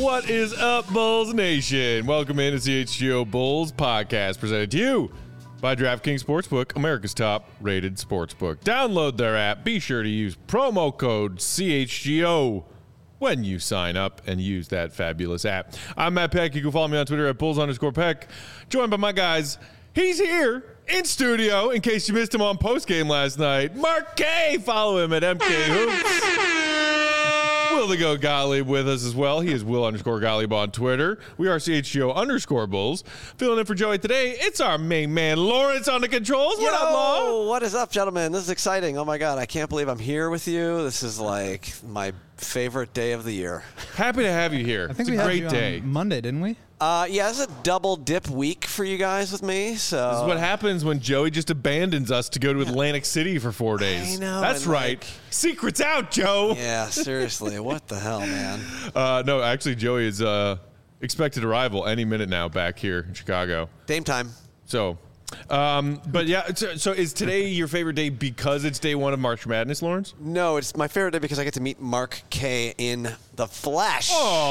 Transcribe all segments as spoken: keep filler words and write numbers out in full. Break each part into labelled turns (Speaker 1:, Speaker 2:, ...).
Speaker 1: What is up, Bulls Nation? Welcome into C H G O Bulls podcast, presented to you by DraftKings Sportsbook, America's top-rated sportsbook. Download their app. Be sure to use promo code C H G O when you sign up and use that fabulous app. I'm Matt Peck. You can follow me on Twitter at Bulls underscore Peck. Joined by my guys. He's here in studio, in case you missed him on postgame last night. Mark K. Follow him at M K Hoops. Will the Go Gottlieb with us as well. He is Will underscore Gottlieb on Twitter. We are C H G O underscore Bulls. Filling in for Joey today, it's our main man, Lawrence, on the controls. What
Speaker 2: Yo,
Speaker 1: up, Law?
Speaker 2: What is up, gentlemen? This is exciting. Oh, my God. I can't believe I'm here with you. This is like my favorite day of the year.
Speaker 1: Happy to have you here.
Speaker 3: I think
Speaker 1: it's
Speaker 3: we
Speaker 1: a
Speaker 3: had
Speaker 1: great
Speaker 3: you
Speaker 1: day.
Speaker 3: on Monday, didn't we?
Speaker 2: Uh, yeah, it's a double dip week for you guys with me. So
Speaker 1: This is what happens when Joey just abandons us to go to Atlantic City for four days.
Speaker 2: I know.
Speaker 1: That's
Speaker 2: and
Speaker 1: right.
Speaker 2: like-
Speaker 1: Secrets out, Joe.
Speaker 2: Yeah, seriously. What the hell, man?
Speaker 1: Uh, no, actually, Joey is uh, expected arrival any minute now back here in Chicago.
Speaker 2: Dame time.
Speaker 1: So, um, but yeah, so, so is today your favorite day because it's day one of March Madness, Lawrence?
Speaker 2: No, it's my favorite day because I get to meet Mark K in the flesh.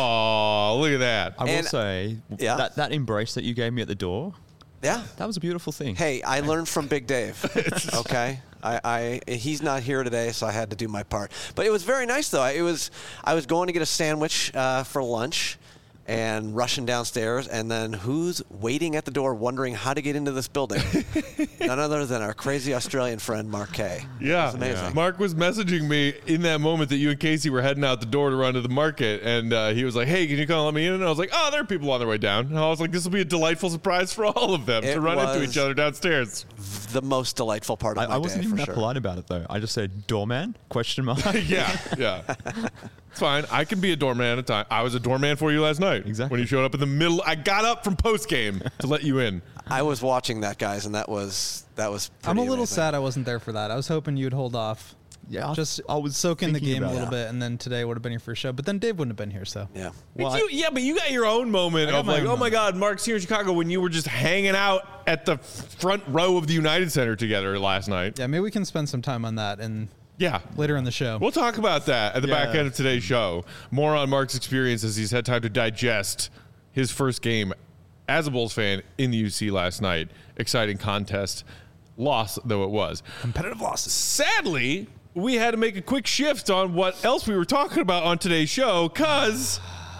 Speaker 1: Oh, look at that.
Speaker 4: I will
Speaker 2: And-
Speaker 4: say,
Speaker 2: Yeah.
Speaker 4: that, that embrace that you gave me at the door,
Speaker 2: Yeah.
Speaker 4: that was a beautiful thing.
Speaker 2: Hey, I learned from Big Dave. Okay, I, I he's not here today, so I had to do my part. But it was very nice, though. It was I was going to get a sandwich uh, for lunch, and rushing downstairs, and then who's waiting at the door, wondering how to get into this building? None other than our crazy Australian friend, Mark K.
Speaker 1: Yeah.
Speaker 2: It was amazing.
Speaker 1: Mark was messaging me in that moment that you and Casey were heading out the door to run to the market, and uh, he was like, "Hey, can you come let me in?" And I was like, "Oh, there are people on their way down." And I was like, "This will be a delightful surprise for all of them
Speaker 2: It
Speaker 1: to run into
Speaker 2: was-
Speaker 1: each other downstairs."
Speaker 2: The most delightful part of
Speaker 4: I,
Speaker 2: my
Speaker 4: I wasn't
Speaker 2: day,
Speaker 4: even
Speaker 2: for
Speaker 4: that
Speaker 2: sure.
Speaker 4: polite about it, though. I just said, doorman, question mark.
Speaker 1: yeah, yeah. It's fine. I can be a doorman at a time. I was a doorman for you last night.
Speaker 4: Exactly.
Speaker 1: When you showed up in the middle, I got up from post game to let you in.
Speaker 2: I was watching that, guys, and that was that was.
Speaker 3: I'm a
Speaker 2: pretty
Speaker 3: little
Speaker 2: amazing.
Speaker 3: sad I wasn't there for that. I was hoping you'd hold off.
Speaker 4: Yeah, I-
Speaker 3: Just
Speaker 4: I was
Speaker 3: soak in the
Speaker 4: thinking
Speaker 3: game a
Speaker 4: about
Speaker 3: little
Speaker 4: it.
Speaker 3: bit, and then today would have been your first show. But then Dave wouldn't have been here, so.
Speaker 2: Yeah.
Speaker 4: Well,
Speaker 1: But you, yeah, but you got your own moment
Speaker 3: I got
Speaker 1: of
Speaker 3: my
Speaker 1: like,
Speaker 3: own
Speaker 1: oh my
Speaker 3: moment.
Speaker 1: God, Mark's here in Chicago when you were just hanging out at the front row of the United Center together last night.
Speaker 3: Yeah, maybe we can spend some time on that and
Speaker 1: Yeah.
Speaker 3: later in the show.
Speaker 1: We'll talk about that at the
Speaker 4: Yeah.
Speaker 1: back end of today's show. More on Mark's experience as he's had time to digest his first game as a Bulls fan in the U C last night. Exciting contest. Loss, though it was.
Speaker 3: Competitive losses.
Speaker 1: Sadly, we had to make a quick shift on what else we were talking about on today's show because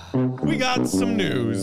Speaker 1: we got some news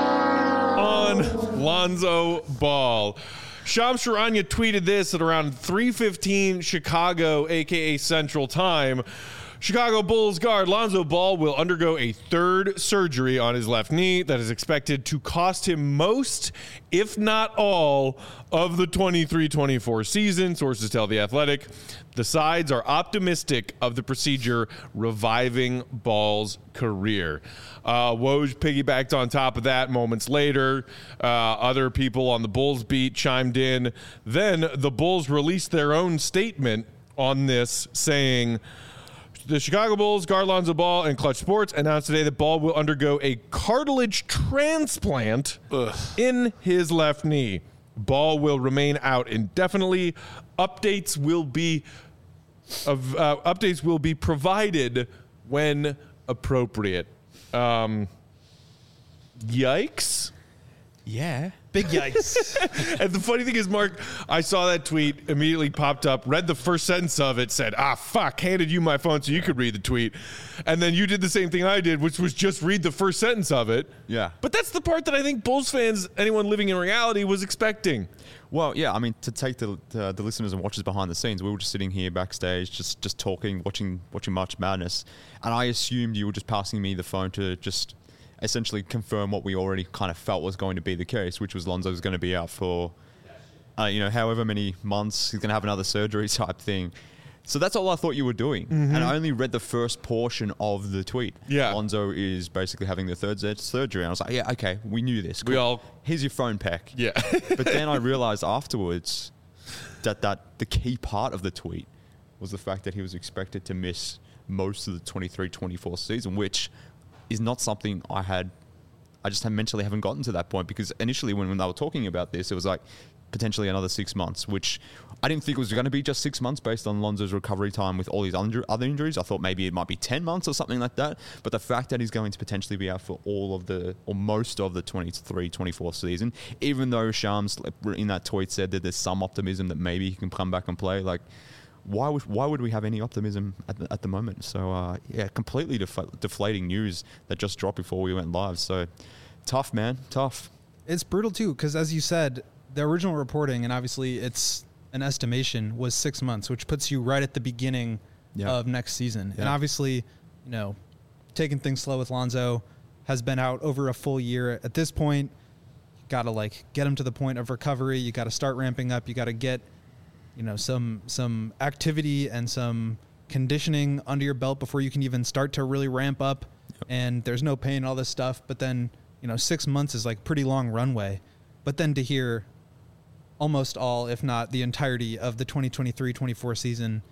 Speaker 1: on Lonzo Ball. Shams Charania tweeted this at around three fifteen Chicago, a k a. Central Time. Chicago Bulls guard Lonzo Ball will undergo a third surgery on his left knee that is expected to cost him most, if not all, of the twenty-three twenty-four season, sources tell The Athletic. The sides are optimistic of the procedure reviving Ball's career. Uh, Woj piggybacked on top of that moments later. Uh, other people on the Bulls beat chimed in. Then the Bulls released their own statement on this, saying, the Chicago Bulls guard Lonzo Ball and Clutch Sports announced today that Ball will undergo a cartilage transplant Ugh. in his left knee. Ball will remain out indefinitely. Updates will be of uh, updates will be provided when appropriate. Um, yikes.
Speaker 4: yeah.
Speaker 3: Big yikes.
Speaker 1: And the funny thing is, Mark, I saw that tweet, immediately popped up, read the first sentence of it, said, ah, fuck, handed you my phone so you could read the tweet. And then you did the same thing I did, which was just read the first sentence of it.
Speaker 4: Yeah.
Speaker 1: But that's the part that I think Bulls fans, anyone living in reality, was expecting.
Speaker 4: Well, yeah, I mean, to take the, the the listeners and watchers behind the scenes, we were just sitting here backstage, just just talking, watching watching March Madness, and I assumed you were just passing me the phone to just essentially confirm what we already kind of felt was going to be the case, which was Lonzo was going to be out for, uh, you know, however many months. He's going to have another surgery type thing. So that's all I thought you were doing. Mm-hmm. And I only read the first portion of the tweet.
Speaker 1: Yeah.
Speaker 4: Lonzo is basically having the third z- surgery. And I was like, yeah, okay, we knew this.
Speaker 1: We all-
Speaker 4: Here's your phone, Peck.
Speaker 1: Yeah.
Speaker 4: But then I realized afterwards that, that the key part of the tweet was the fact that he was expected to miss most of the twenty-three twenty-four season, which is not something I had, I just mentally haven't gotten to that point, because initially when, when they were talking about this, it was like potentially another six months, which I didn't think it was going to be just six months based on Lonzo's recovery time with all his under, other injuries. I thought maybe it might be ten months or something like that. But the fact that he's going to potentially be out for all of the, or most of the twenty-three twenty-four season, even though Shams in that tweet said that there's some optimism that maybe he can come back and play, like, why would why would we have any optimism at the, at the moment? So, uh, yeah, completely def- deflating news that just dropped before we went live. So, tough, man, tough.
Speaker 3: It's brutal, too, because as you said, the original reporting, and obviously it's an estimation, was six months, which puts you right at the beginning
Speaker 4: Yeah.
Speaker 3: of next season.
Speaker 4: Yeah.
Speaker 3: And obviously, you know, taking things slow with Lonzo, has been out over a full year. At this point, you got to, like, get him to the point of recovery. You got to start ramping up. You got to get, you know, some some activity and some conditioning under your belt before you can even start to really ramp up. Yep. And there's no pain, all this stuff. But then, you know, six months is, like, pretty long runway. But then to hear almost all, if not the entirety of the twenty twenty-three twenty-four season,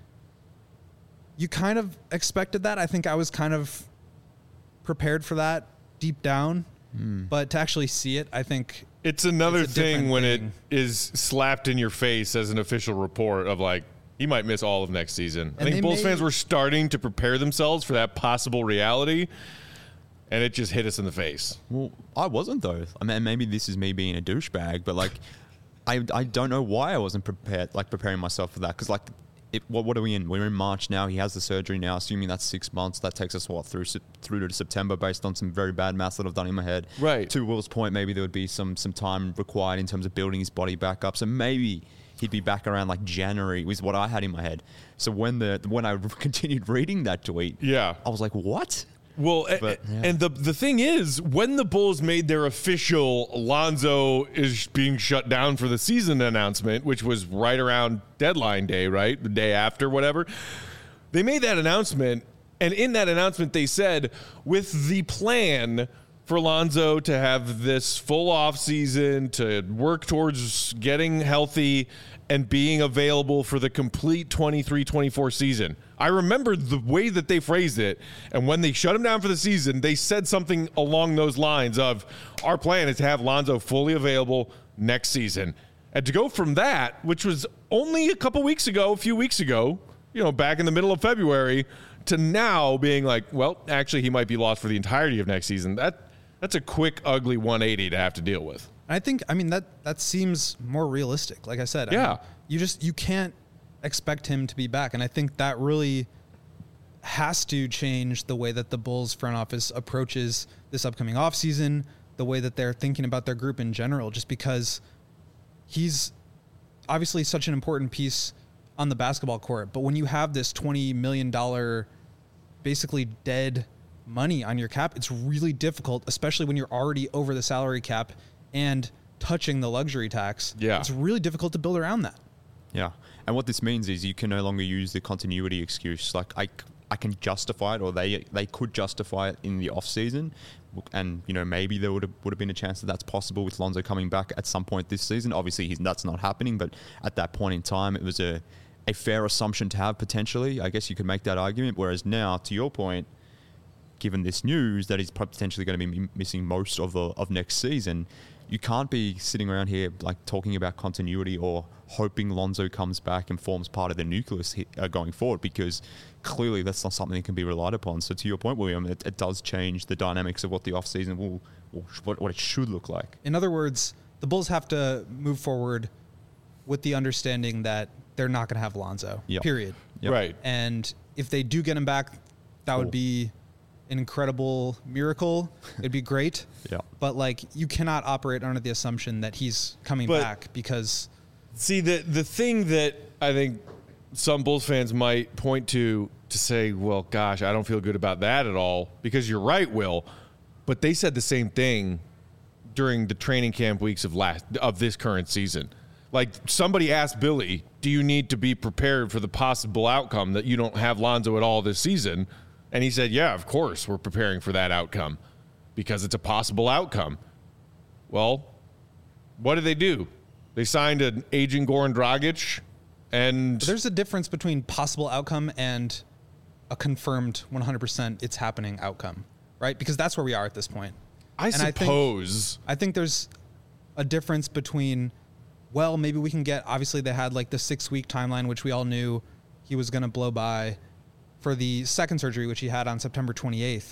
Speaker 3: you kind of expected that. I think I was kind of prepared for that deep down. Mm. But to actually see it, I think
Speaker 1: it's another
Speaker 3: it's
Speaker 1: thing when
Speaker 3: thing.
Speaker 1: it is slapped in your face as an official report of like, he might miss all of next season. And I think Bulls fans were starting to prepare themselves for that possible reality, and it just hit us in the face.
Speaker 4: Well, I wasn't, though. I mean, maybe this is me being a douchebag, but like, I I don't know why I wasn't prepared, like preparing myself for that. Because like, it, what what are we in? We're in March now. He has the surgery now. Assuming that's six months, that takes us what through through to September, based on some very bad maths that I've done in my head.
Speaker 1: Right.
Speaker 4: To Will's point, maybe there would be some some time required in terms of building his body back up. So maybe he'd be back around like January, was what I had in my head. So when the when I continued reading that tweet,
Speaker 1: yeah,
Speaker 4: I was like, what?
Speaker 1: Well,
Speaker 4: But, yeah.
Speaker 1: and the the thing is, when the Bulls made their official Lonzo is being shut down for the season announcement, which was right around deadline day, right? The day after, whatever. They made that announcement, and in that announcement, they said, with the plan for Lonzo to have this full off season, to work towards getting healthy and being available for the complete twenty-three twenty-four season. I remember the way that they phrased it, and when they shut him down for the season, they said something along those lines of, our plan is to have Lonzo fully available next season. And to go from that, which was only a couple weeks ago, a few weeks ago, you know, back in the middle of February, to now being like, well, actually he might be lost for the entirety of next season. That that's a quick, ugly one eighty to have to deal with.
Speaker 3: I think, I mean, that that seems more realistic. Like I said,
Speaker 1: Yeah.
Speaker 3: I mean, you just, you can't expect him to be back. And I think that really has to change the way that the Bulls front office approaches this upcoming offseason, the way that they're thinking about their group in general, just because he's obviously such an important piece on the basketball court. But when you have this twenty million dollars basically dead money on your cap, it's really difficult, especially when you're already over the salary cap and touching the luxury tax.
Speaker 1: Yeah.
Speaker 3: It's really difficult to build around that.
Speaker 4: Yeah. And what this means is you can no longer use the continuity excuse. Like I, I can justify it, or they they could justify it in the off season, and you know maybe there would have would have been a chance that that's possible with Lonzo coming back at some point this season. Obviously, he's, that's not happening, but at that point in time, it was a a fair assumption to have potentially. I guess you could make that argument. Whereas now, to your point, given this news that he's potentially going to be missing most of the of next season, you can't be sitting around here like talking about continuity or hoping Lonzo comes back and forms part of the nucleus uh, going forward, because clearly that's not something that can be relied upon. So to your point, William, it, it does change the dynamics of what the offseason will, will what, what it should look like.
Speaker 3: In other words, the Bulls have to move forward with the understanding that they're not going to have Lonzo,
Speaker 4: Yep.
Speaker 3: period.
Speaker 4: Yep.
Speaker 1: Right.
Speaker 3: And if they do get him back, that
Speaker 4: Cool.
Speaker 3: would be an incredible miracle. It'd be great.
Speaker 4: Yeah.
Speaker 3: But like, you cannot operate under the assumption that he's coming
Speaker 1: But-
Speaker 3: back, because
Speaker 1: See, the the thing that I think some Bulls fans might point to to say, well, gosh, I don't feel good about that at all, because you're right, Will, but they said the same thing during the training camp weeks of last of this current season. Like, somebody asked Billy, do you need to be prepared for the possible outcome that you don't have Lonzo at all this season? And he said, yeah, of course we're preparing for that outcome, because it's a possible outcome. Well, what did they do? They signed an aging Goran Dragic, and
Speaker 3: there's a difference between possible outcome and a confirmed one hundred percent it's happening outcome, right? Because that's where we are at this point.
Speaker 1: I
Speaker 3: And I think-
Speaker 1: suppose
Speaker 3: I think there's a difference between well, maybe we can get, obviously they had like the six week timeline, which we all knew he was going to blow by for the second surgery, which he had on September twenty-eighth.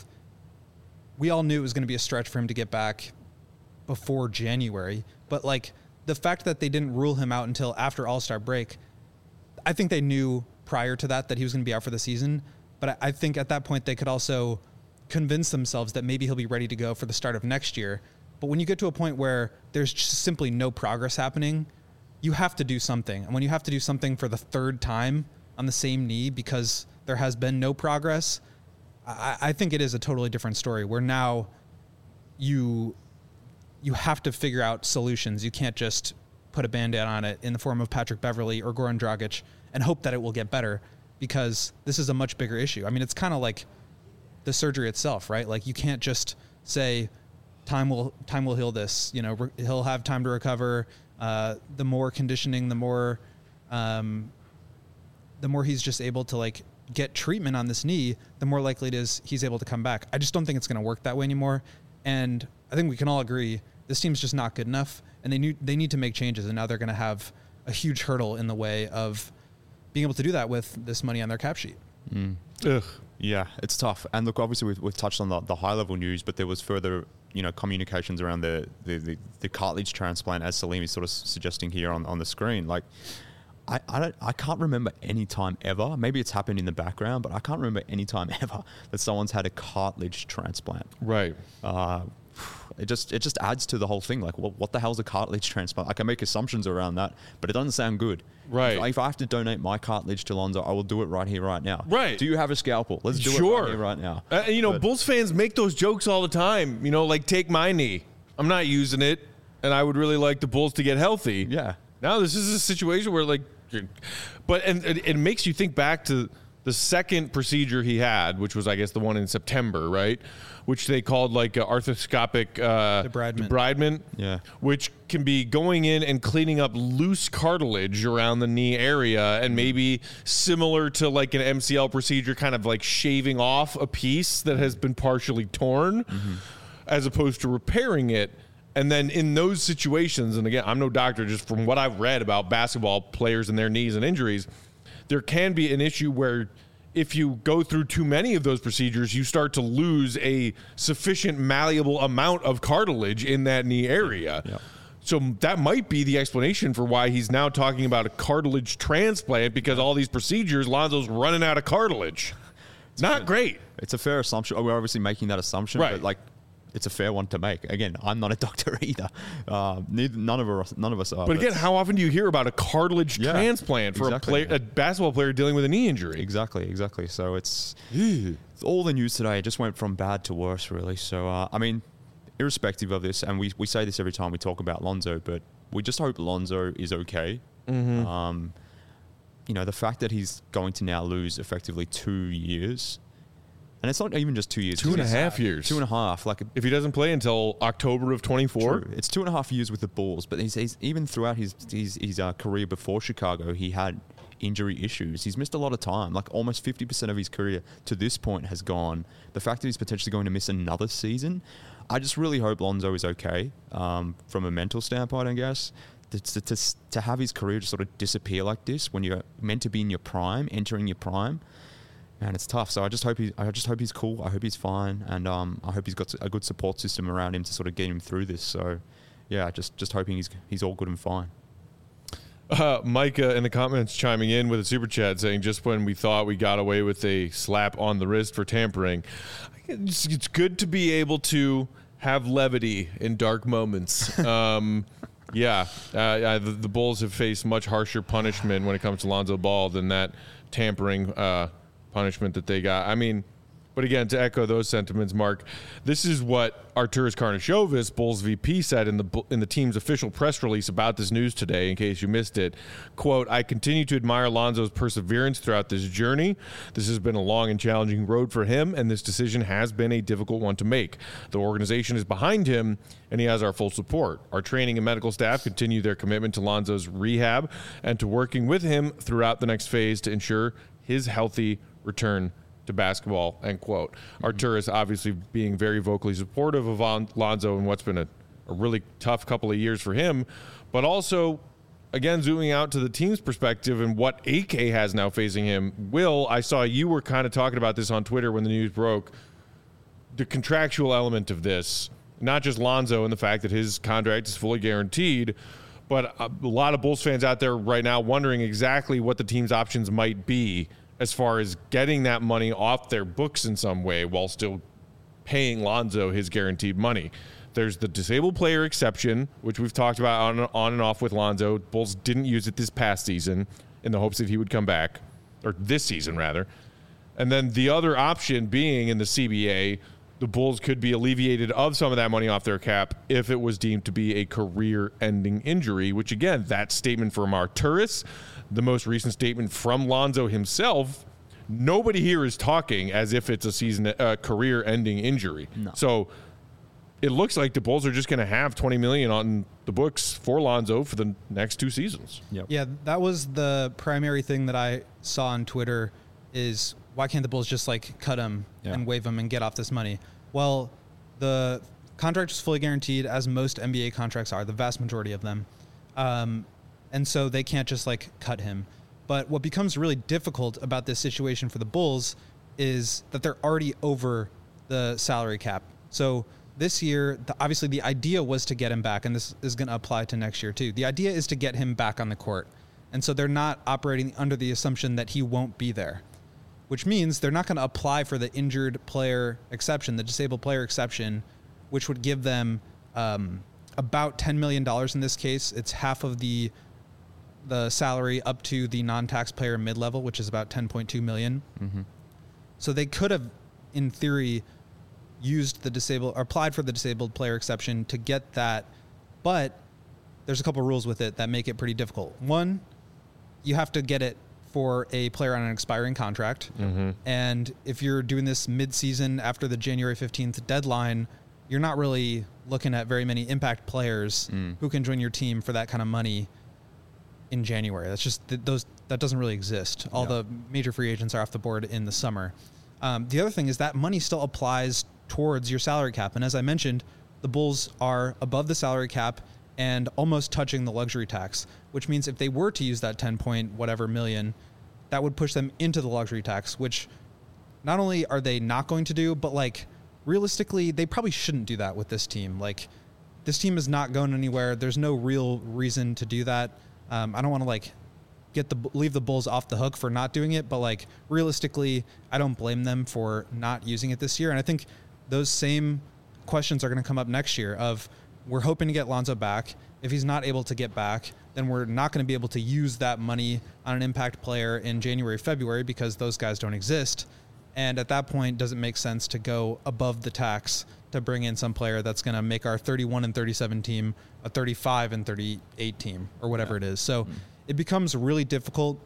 Speaker 3: We all knew it was going to be a stretch for him to get back before January, but like the fact that they didn't rule him out until after All-Star break, I think they knew prior to that that he was going to be out for the season. But I, I think at that point they could also convince themselves that maybe he'll be ready to go for the start of next year. But when you get to a point where there's just simply no progress happening, you have to do something. And when you have to do something for the third time on the same knee because there has been no progress, I, I think it is a totally different story where now you you have to figure out solutions. You can't just put a Band-Aid on it in the form of Patrick Beverley or Goran Dragic and hope that it will get better, because this is a much bigger issue. I mean, it's kind of like the surgery itself, right? Like you can't just say time will time will heal this. You know, re- he'll have time to recover. Uh, the more conditioning, the more um, the more he's just able to like get treatment on this knee, the more likely it is he's able to come back. I just don't think it's going to work that way anymore. And I think we can all agree this team's just not good enough, and they need they need to make changes. And now they're going to have a huge hurdle in the way of being able to do that with this money on their cap sheet.
Speaker 4: Mm.
Speaker 1: Ugh.
Speaker 4: Yeah, it's tough. And look, obviously we've, we've touched on the, the high level news, but there was further, you know, communications around the, the, the, the cartilage transplant, as Salim is sort of suggesting here on, on the screen. Like, I, I don't I can't remember any time ever, maybe it's happened in the background, but I can't remember any time ever that someone's had a cartilage transplant.
Speaker 1: Right.
Speaker 4: Uh, it just it just adds to the whole thing. Like, what, what the hell's a cartilage transplant? I can make assumptions around that, but it doesn't sound good.
Speaker 1: Right.
Speaker 4: If, if I have to donate my cartilage to Lonzo, I will do it right here, right now.
Speaker 1: Right.
Speaker 4: Do you have a scalpel? Let's do
Speaker 1: Sure.
Speaker 4: it right here, right now.
Speaker 1: Uh, you know,
Speaker 4: But-
Speaker 1: Bulls fans make those jokes all the time. You know, like, take my knee. I'm not using it, and I would really like the Bulls to get healthy.
Speaker 4: Yeah.
Speaker 1: Now this is a situation where, like, you're- but and it, it makes you think back to the second procedure he had, which was, I guess, the one in September, right? Which they called like uh, arthroscopic uh,
Speaker 3: Debridement.
Speaker 1: debridement.
Speaker 4: Yeah.
Speaker 1: Which can be going in and cleaning up loose cartilage around the knee area, and maybe similar to like an M C L procedure, kind of like shaving off a piece that has been partially torn, mm-hmm. as opposed to repairing it. And then in those situations, and again, I'm no doctor, just from what I've read about basketball players and their knees and injuries, there can be an issue where if you go through too many of those procedures, you start to lose a sufficient malleable amount of cartilage in that knee area.
Speaker 4: Yep.
Speaker 1: So that might be the explanation for why he's now talking about a cartilage transplant, because all these procedures, Lonzo's running out of cartilage. It's not great.
Speaker 4: It's a fair assumption. We're obviously making that assumption,
Speaker 1: Right.
Speaker 4: but like, it's a fair one to make. Again, I'm not a doctor either. Uh, neither, none of us, none of us are.
Speaker 1: But again, how often do you hear about a cartilage
Speaker 4: Yeah,
Speaker 1: transplant for
Speaker 4: exactly.
Speaker 1: a player, a basketball player dealing with a knee injury?
Speaker 4: Exactly, exactly. So it's, it's all the news today. It just went from bad to worse, really. So uh, I mean, irrespective of this, and we we say this every time we talk about Lonzo, but we just hope Lonzo is okay.
Speaker 1: Mm-hmm.
Speaker 4: Um, you know, the fact that he's going to now lose effectively two years. And it's not even just two years.
Speaker 1: Two and a
Speaker 4: It's
Speaker 1: half years.
Speaker 4: Two and a half. Like,
Speaker 1: If he doesn't play until October of twenty-four.
Speaker 4: true. It's two and a half years with the Bulls. But he's, he's even throughout his his, his uh, career before Chicago, he had injury issues. He's missed a lot of time. Like, almost fifty percent of his career to this point has gone. The fact that he's potentially going to miss another season, I just really hope Lonzo is okay um, from a mental standpoint, I guess. To, to, to, to have his career just sort of disappear like this when you're meant to be in your prime, entering your prime, man, it's tough. So I just hope he, I just hope he's cool. I hope he's fine, and um, I hope he's got a good support system around him to sort of get him through this. So, yeah, just just hoping he's he's all good and fine.
Speaker 1: Uh, Micah in the comments chiming in with a super chat saying, just when we thought we got away with a slap on the wrist for tampering, it's, it's good to be able to have levity in dark moments. Um, yeah, uh, uh, the, the Bulls have faced much harsher punishment when it comes to Lonzo Ball than that tampering uh, punishment that they got. I mean, but again, to echo those sentiments, Mark, this is what Arturas Karnisovas, Bulls V P, said in the in the team's official press release about this news today, in case you missed it. Quote, I continue to admire Lonzo's perseverance throughout this journey. This has been a long and challenging road for him, and this decision has been a difficult one to make. The organization is behind him, and he has our full support. Our training and medical staff continue their commitment to Lonzo's rehab and to working with him throughout the next phase to ensure his healthy return to basketball, end quote. Mm-hmm. Arturas obviously being very vocally supportive of Lon- Lonzo in what's been a, a really tough couple of years for him, but also again, zooming out to the team's perspective and what A K has now facing him, Will, I saw you were kind of talking about this on Twitter when the news broke. The contractual element of this, not just Lonzo and the fact that his contract is fully guaranteed, but a lot of Bulls fans out there right now wondering exactly what the team's options might be as far as getting that money off their books in some way while still paying Lonzo his guaranteed money. There's the disabled player exception, which we've talked about on, on and off with Lonzo. Bulls didn't use it this past season in the hopes that he would come back, or this season rather. And then the other option being in the C B A, the Bulls could be alleviated of some of that money off their cap if it was deemed to be a career-ending injury, which, again, that statement from Arturas, the most recent statement from Lonzo himself, nobody here is talking as if it's a season uh, career-ending injury.
Speaker 4: No.
Speaker 1: So it looks like the Bulls are just going to have twenty million dollars on the books for Lonzo for the next two seasons.
Speaker 4: Yep.
Speaker 3: Yeah, that was the primary thing that I saw on Twitter is why can't the Bulls just like cut him
Speaker 4: Yeah.
Speaker 3: and waive him and get off this money? Well, the contract is fully guaranteed, as most N B A contracts are, the vast majority of them. Um, and so they can't just like cut him. But what becomes really difficult about this situation for the Bulls is that they're already over the salary cap. So this year, the, obviously the idea was to get him back, and this is going to apply to next year too. The idea is to get him back on the court. And so they're not operating under the assumption that he won't be there, which means they're not going to apply for the injured player exception, the disabled player exception, which would give them um, about ten million dollars in this case. It's half of the the salary up to the non-taxpayer mid-level, which is about ten point two million dollars. Mm-hmm. So they could have, in theory, used the disabled or applied for the disabled player exception to get that, but there's a couple rules with it that make it pretty difficult. One, you have to get it for a player on an expiring contract. Mm-hmm. And if you're doing this mid-season after the January fifteenth deadline, you're not really looking at very many impact players mm. who can join your team for that kind of money in January. That's just th- those that doesn't really exist. All yeah. the major free agents are off the board in the summer. Um, the other thing is that money still applies towards your salary cap. And as I mentioned, the Bulls are above the salary cap and almost touching the luxury tax, which means if they were to use that ten point whatever million, that would push them into the luxury tax, which not only are they not going to do, but like realistically, they probably shouldn't do that with this team. Like this team is not going anywhere. There's no real reason to do that. Um, I don't want to like get the leave the Bulls off the hook for not doing it, but like realistically, I don't blame them for not using it this year. And I think those same questions are going to come up next year of we're hoping to get Lonzo back. If he's not able to get back, then we're not going to be able to use that money on an impact player in January, February, because those guys don't exist. And at that point, does it make sense to go above the tax to bring in some player that's going to make our thirty-one and thirty-seven team a thirty-five and thirty-eight team or whatever yeah. it is? So mm. it becomes really difficult.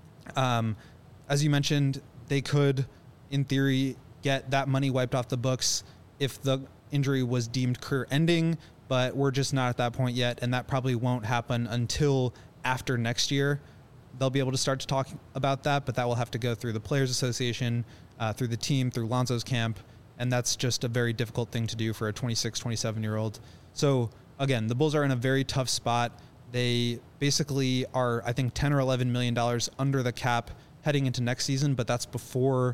Speaker 3: Um, as you mentioned, they could, in theory, get that money wiped off the books if the injury was deemed career ending, but we're just not at that point yet, and that probably won't happen until after next year. They'll be able to start to talk about that, but that will have to go through the Players Association, uh, through the team, through Lonzo's camp, and that's just a very difficult thing to do for a twenty-six, twenty-seven-year-old. So, again, the Bulls are in a very tough spot. They basically are, I think, ten or eleven million dollars under the cap heading into next season, but that's before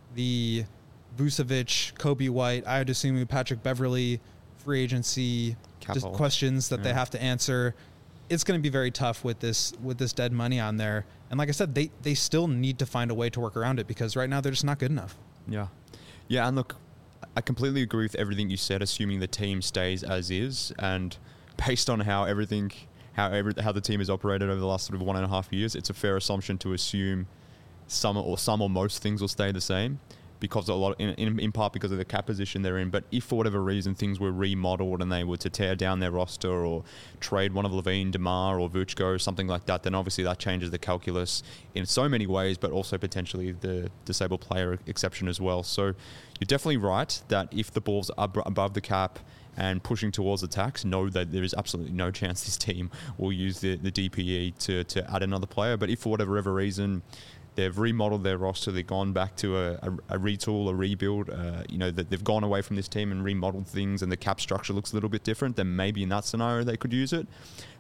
Speaker 3: the Vucevic, Kobe White, Ayodosunmu, Patrick Beverley free agency just questions that yeah. they have to answer. It's going to be very tough with this with this dead money on there. And like I said, they, they still need to find a way to work around it because right now they're just not good enough.
Speaker 4: Yeah. Yeah, and look, I completely agree with everything you said, assuming the team stays as is. And based on how everything, how every, how the team has operated over the last sort of one and a half years, it's a fair assumption to assume some or some or most things will stay the same. Because a lot, in, in in part because of the cap position they're in. But if for whatever reason things were remodeled and they were to tear down their roster or trade one of Levine, DeMar, or Vučko or something like that, then obviously that changes the calculus in so many ways, but also potentially the disabled player exception as well. So you're definitely right that if the Bulls are above the cap and pushing towards the tax, know that there is absolutely no chance this team will use the, the D P E to, to add another player. But if for whatever ever reason they've remodeled their roster, they've gone back to a, a, a retool, a rebuild, uh, you know, that they've gone away from this team and remodeled things and the cap structure looks a little bit different, then maybe in that scenario they could use it.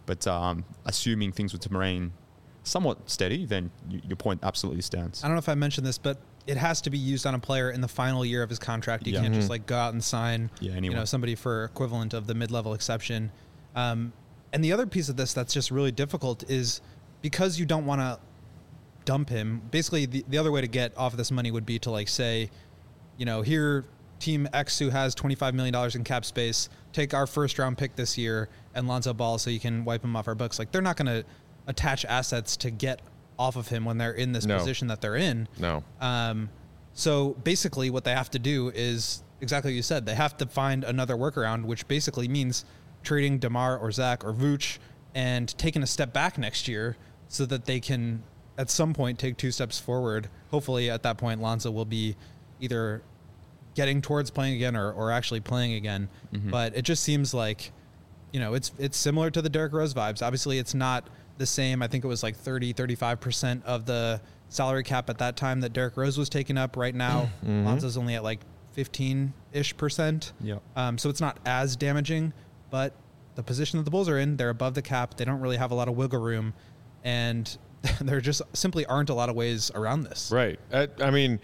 Speaker 4: But um, assuming things were to remain somewhat steady, then y- your point absolutely stands.
Speaker 3: I don't know if I mentioned this, but it has to be used on a player in the final year of his contract. You
Speaker 4: Yeah.
Speaker 3: can't
Speaker 4: Mm-hmm.
Speaker 3: just like go out and sign,
Speaker 4: Yeah,
Speaker 3: you
Speaker 4: anyone.
Speaker 3: know, somebody for equivalent of the mid-level exception. Um, and the other piece of this that's just really difficult is because you don't want to dump him. Basically, the, the other way to get off of this money would be to like say, you know, here team X who has twenty-five million dollars in cap space, take our first round pick this year and Lonzo Ball so you can wipe him off our books. Like they're not going to attach assets to get off of him when they're in this
Speaker 1: No.
Speaker 3: position that they're in.
Speaker 1: No.
Speaker 3: Um, so basically what they have to do is exactly what you said. They have to find another workaround, which basically means trading DeMar or Zach or Vooch and taking a step back next year so that they can at some point take two steps forward. Hopefully at that point, Lonzo will be either getting towards playing again or, or actually playing again.
Speaker 4: Mm-hmm.
Speaker 3: But it just seems like, you know, it's, it's similar to the Derrick Rose vibes. Obviously it's not the same. I think it was like thirty, thirty-five percent of the salary cap at that time that Derrick Rose was taking up. Right now,
Speaker 1: Mm-hmm.
Speaker 3: Lonzo's only at like fifteen-ish percent.
Speaker 4: Yep.
Speaker 3: Um, so it's not as damaging, but the position that the Bulls are in, they're above the cap. They don't really have a lot of wiggle room, and there just simply aren't a lot of ways around this.
Speaker 1: Right. I, I mean,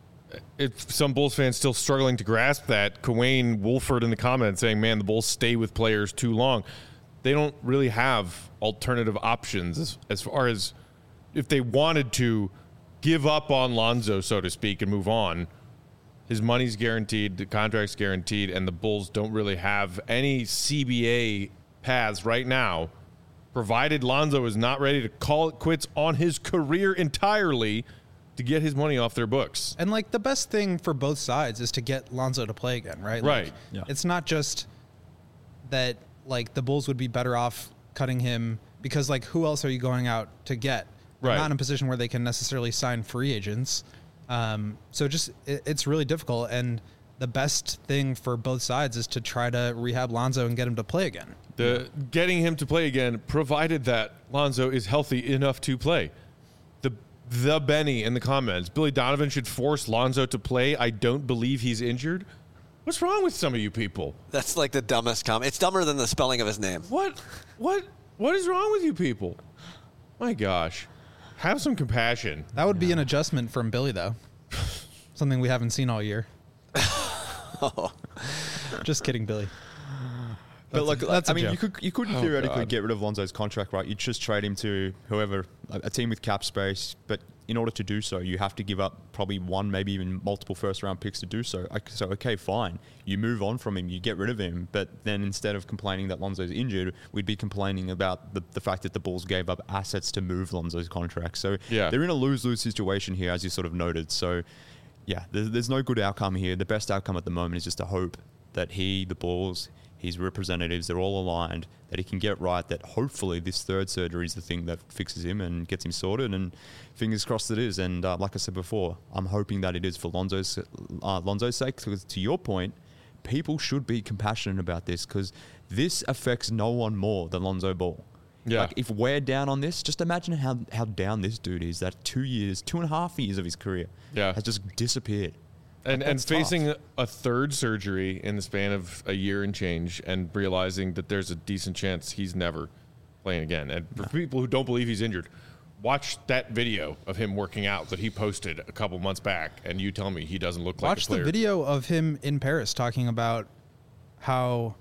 Speaker 1: if some Bulls fans still struggling to grasp that, Kawane Wolford in the comments saying, man, the Bulls stay with players too long. They don't really have alternative options as, as far as if they wanted to give up on Lonzo, so to speak, and move on. His money's guaranteed, the contract's guaranteed, and the Bulls don't really have any C B A paths right now, provided Lonzo is not ready to call it quits on his career entirely to get his money off their books.
Speaker 3: And like the best thing for both sides is to get Lonzo to play again, right?
Speaker 1: Right.
Speaker 3: Like,
Speaker 4: Yeah.
Speaker 3: It's not just that like the Bulls would be better off cutting him because like who else are you going out to get? They're
Speaker 1: Right.
Speaker 3: not in a position where they can necessarily sign free agents. Um, so just it, it's really difficult, and the best thing for both sides is to try to rehab Lonzo and get him to play again.
Speaker 1: The getting him to play again, provided that Lonzo is healthy enough to play. The the Benny in the comments, Billy Donovan should force Lonzo to play. I don't believe he's injured. What's wrong with some of you people?
Speaker 2: That's like the dumbest comment. It's dumber than the spelling of his name.
Speaker 1: What what what is wrong with you people? My gosh. Have some compassion.
Speaker 3: That would be an adjustment from Billy, though. Something we haven't seen all year. Just kidding, Billy.
Speaker 4: But
Speaker 3: That's
Speaker 4: like,
Speaker 3: a- that's
Speaker 4: I
Speaker 3: a
Speaker 4: mean, you
Speaker 3: joke.
Speaker 4: could you could
Speaker 1: Oh,
Speaker 4: theoretically
Speaker 1: God.
Speaker 4: get rid of Lonzo's contract, right? You just trade him to whoever, a, a team with cap space. But in order to do so, you have to give up probably one, maybe even multiple first round picks to do so. Like, so okay, fine, you move on from him, you get rid of him. But then instead of complaining that Lonzo's injured, we'd be complaining about the, the fact that the Bulls gave up assets to move Lonzo's contract. So
Speaker 1: Yeah.
Speaker 4: they're in a lose lose situation here, as you sort of noted. So yeah, there's, there's no good outcome here. The best outcome at the moment is just to hope that he, the Bulls, his representatives, they're all aligned, that he can get right, that hopefully this third surgery is the thing that fixes him and gets him sorted, and fingers crossed it is. And uh, like I said before, I'm hoping that it is for Lonzo's, uh, Lonzo's sake, because to your point, people should be compassionate about this because this affects no one more than Lonzo Ball.
Speaker 1: Yeah.
Speaker 4: Like if we're down on this, just imagine how, how down this dude is, that two years, two and a half years of his career
Speaker 1: Yeah.
Speaker 4: has just disappeared.
Speaker 1: And and
Speaker 4: That's tough.
Speaker 1: facing a third surgery in the span of a year and change and realizing that there's a decent chance he's never playing again. And for people who don't believe he's injured, watch that video of him working out that he posted a couple months back, and you tell me he doesn't look like a
Speaker 3: Watch the
Speaker 1: player.
Speaker 3: video of him in Paris talking about how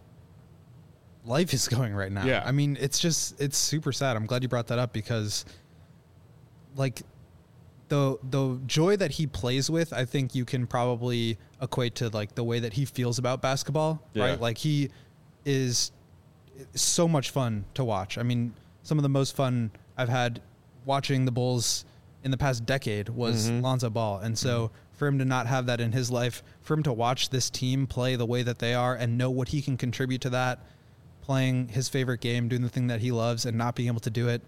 Speaker 3: life is going right now.
Speaker 1: Yeah.
Speaker 3: I mean, it's just, it's super sad. I'm glad you brought that up because, like, the the joy that he plays with, I think you can probably equate to, like, the way that he feels about basketball,
Speaker 1: Yeah.
Speaker 3: right? Like, he is so much fun to watch. I mean, some of the most fun I've had watching the Bulls in the past decade was
Speaker 1: Mm-hmm.
Speaker 3: Lonzo Ball. And so for him to not have that in his life, for him to watch this team play the way that they are and know what he can contribute to that, playing his favorite game, doing the thing that he loves and not being able to do it,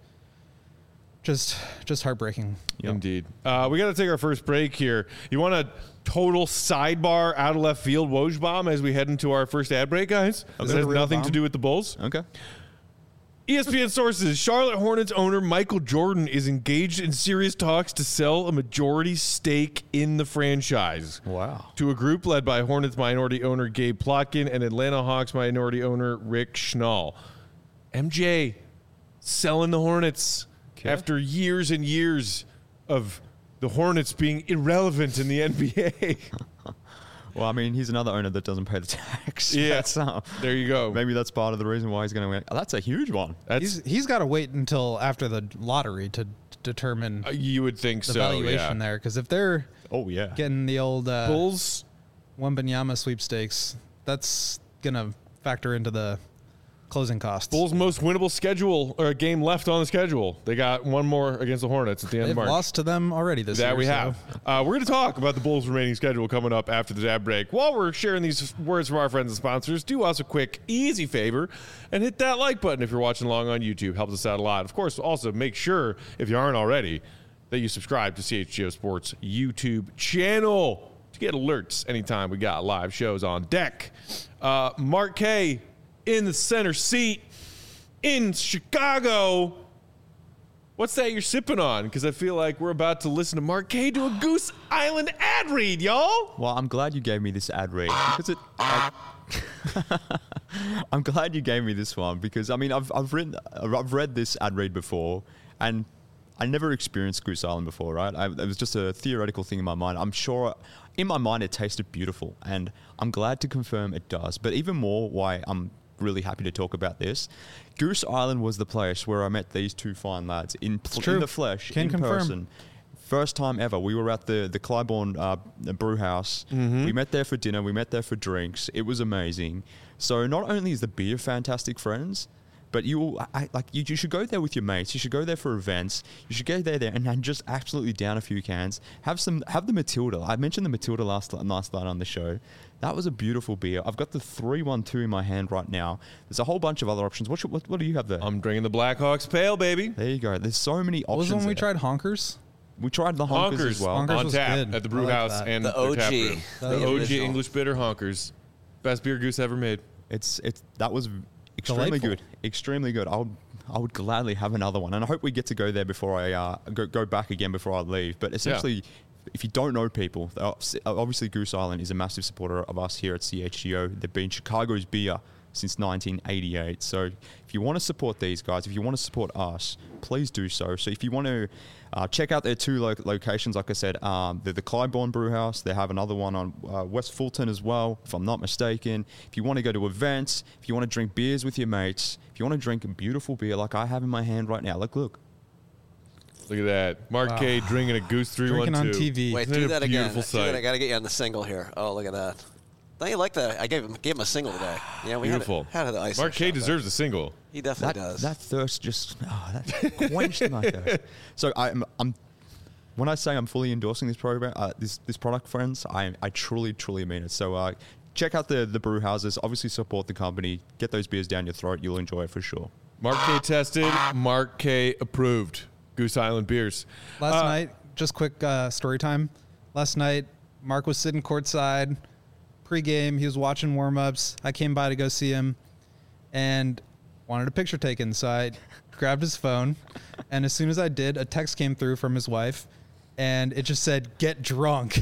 Speaker 3: just just heartbreaking.
Speaker 1: Indeed. Uh, we got to take our first break here. You want a total sidebar out of left field Woj bomb as we head into our first ad break, guys?
Speaker 3: Is
Speaker 1: This
Speaker 3: it
Speaker 1: has
Speaker 3: a real
Speaker 1: nothing to
Speaker 3: bomb?
Speaker 1: do with the Bulls.
Speaker 4: Okay.
Speaker 1: E S P N sources, Charlotte Hornets owner Michael Jordan is engaged in serious talks to sell a majority stake in the franchise.
Speaker 4: Wow.
Speaker 1: To a group led by Hornets minority owner Gabe Plotkin and Atlanta Hawks minority owner Rick Schnall. M J, selling the Hornets
Speaker 4: Okay.
Speaker 1: after years and years of the Hornets being irrelevant in the N B A.
Speaker 4: Well, I mean, he's another owner that doesn't pay the tax.
Speaker 1: Yeah.
Speaker 4: That's, uh,
Speaker 1: There you go.
Speaker 4: maybe that's part of the reason why he's going to win. Oh, that's a huge one.
Speaker 1: That's
Speaker 3: He's he's got to wait until after the lottery to determine
Speaker 1: uh, you would think
Speaker 3: the
Speaker 1: so.
Speaker 3: valuation
Speaker 1: Yeah.
Speaker 3: there, because if they're
Speaker 4: Oh, yeah.
Speaker 3: getting the old uh,
Speaker 1: Bulls.
Speaker 3: Wembanyama sweepstakes, that's gonna factor into the closing costs.
Speaker 1: Bulls' most winnable schedule or game left on the schedule. They got one more against the Hornets at the end
Speaker 3: They've
Speaker 1: of March.
Speaker 3: lost to them already this year.
Speaker 1: That we
Speaker 3: so-
Speaker 1: have. Uh, we're going to talk about the Bulls' remaining schedule coming up after the ad break. While we're sharing these words from our friends and sponsors, do us a quick, easy favor and hit that like button if you're watching along on YouTube. Helps us out a lot. Of course, also make sure, if you aren't already, that you subscribe to C H G O Sports YouTube channel to get alerts anytime we got live shows on deck. Uh, Mark K in the center seat in Chicago. What's that you're sipping on? Because I feel like we're about to listen to Mark K do a Goose Island ad read, y'all.
Speaker 4: Well, I'm glad you gave me this ad read because it. I, I'm glad you gave me this one because I mean I've I've written I've read this ad read before and I never experienced Goose Island before, right? I, it was just a theoretical thing in my mind. I'm sure in my mind it tasted beautiful, and I'm glad to confirm it does. But even more, why I'm really happy to talk about this. Goose Island was the place where I met these two fine lads in,
Speaker 3: true.
Speaker 4: in the flesh,
Speaker 3: Can
Speaker 4: in
Speaker 3: confirm.
Speaker 4: person. First time ever. We were at the the Clybourne uh, brew house. We met there for dinner. We met there for drinks. It was amazing. So not only is the beer fantastic, friends, but you will, I, like you, you should go there with your mates. You should go there for events. You should go there there and, and just absolutely down a few cans. Have some have the Matilda. I mentioned the Matilda last last night on the show. That was a beautiful beer. I've got the three one two in my hand right now. There's a whole bunch of other options. What should, what, what do you have there?
Speaker 1: I'm drinking the Blackhawks Pale, baby.
Speaker 4: there you go. There's so many
Speaker 3: What was
Speaker 4: options.
Speaker 3: the one we
Speaker 4: there.
Speaker 3: tried? Honkers?
Speaker 4: We tried the honkers,
Speaker 1: Honkers
Speaker 4: as well.
Speaker 3: Honkers
Speaker 1: on
Speaker 3: was
Speaker 1: tap
Speaker 3: good.
Speaker 1: at the brew
Speaker 3: I like
Speaker 1: house
Speaker 3: that.
Speaker 1: and
Speaker 2: The
Speaker 1: their tap
Speaker 2: O G.
Speaker 1: room.
Speaker 3: The
Speaker 1: The O G
Speaker 2: original.
Speaker 1: English bitter Honkers. Best beer Goose ever made.
Speaker 4: It's it's that was extremely
Speaker 3: Delightful.
Speaker 4: good, extremely good. I would I would gladly have another one, and I hope we get to go there before I uh, go go back again before I leave. But essentially, if you don't know people, uh, obviously Goose Island is a massive supporter of us here at C H G O. They've been Chicago's beer since nineteen eighty-eight. So if you want to support these guys, if you want to support us, please do so. So if you want to uh, check out their two lo- locations, like I said, um, they're the Clybourne Brew House. They have another one on uh, West Fulton as well, if I'm not mistaken. If you want to go to events, if you want to drink beers with your mates, if you want to drink a beautiful beer like I have in my hand right now, look, look.
Speaker 1: Look at that. Mark K drinking a Goose three one two.
Speaker 3: Drinking on T V.
Speaker 2: Wait,
Speaker 1: Isn't it
Speaker 2: do
Speaker 1: a
Speaker 2: that again.
Speaker 1: beautiful
Speaker 2: Do that.
Speaker 1: sight?
Speaker 2: I got to get you on the single here. Oh, look at that. Don't you like that? I gave him gave him a single today. Yeah, we
Speaker 1: Beautiful.
Speaker 2: had, had the ice.
Speaker 1: Mark K deserves a single.
Speaker 2: He definitely
Speaker 4: That,
Speaker 2: does.
Speaker 4: that thirst just oh, that quenched my thirst. So I'm, I'm when I say I'm fully endorsing this program, uh, this this product, friends, I I truly truly mean it. So uh, check out the the brew houses. Obviously, support the company. Get those beers down your throat. You'll enjoy it for sure.
Speaker 1: Mark K tested. Mark K approved. Goose Island beers.
Speaker 3: Last
Speaker 1: Uh,
Speaker 3: night, just quick uh, story time. Last night, Mark was sitting courtside, pregame. He was watching warm-ups. I came by to go see him, and wanted a picture taken. So I grabbed his phone, and as soon as I did, a text came through from his wife, and it just said, "Get drunk."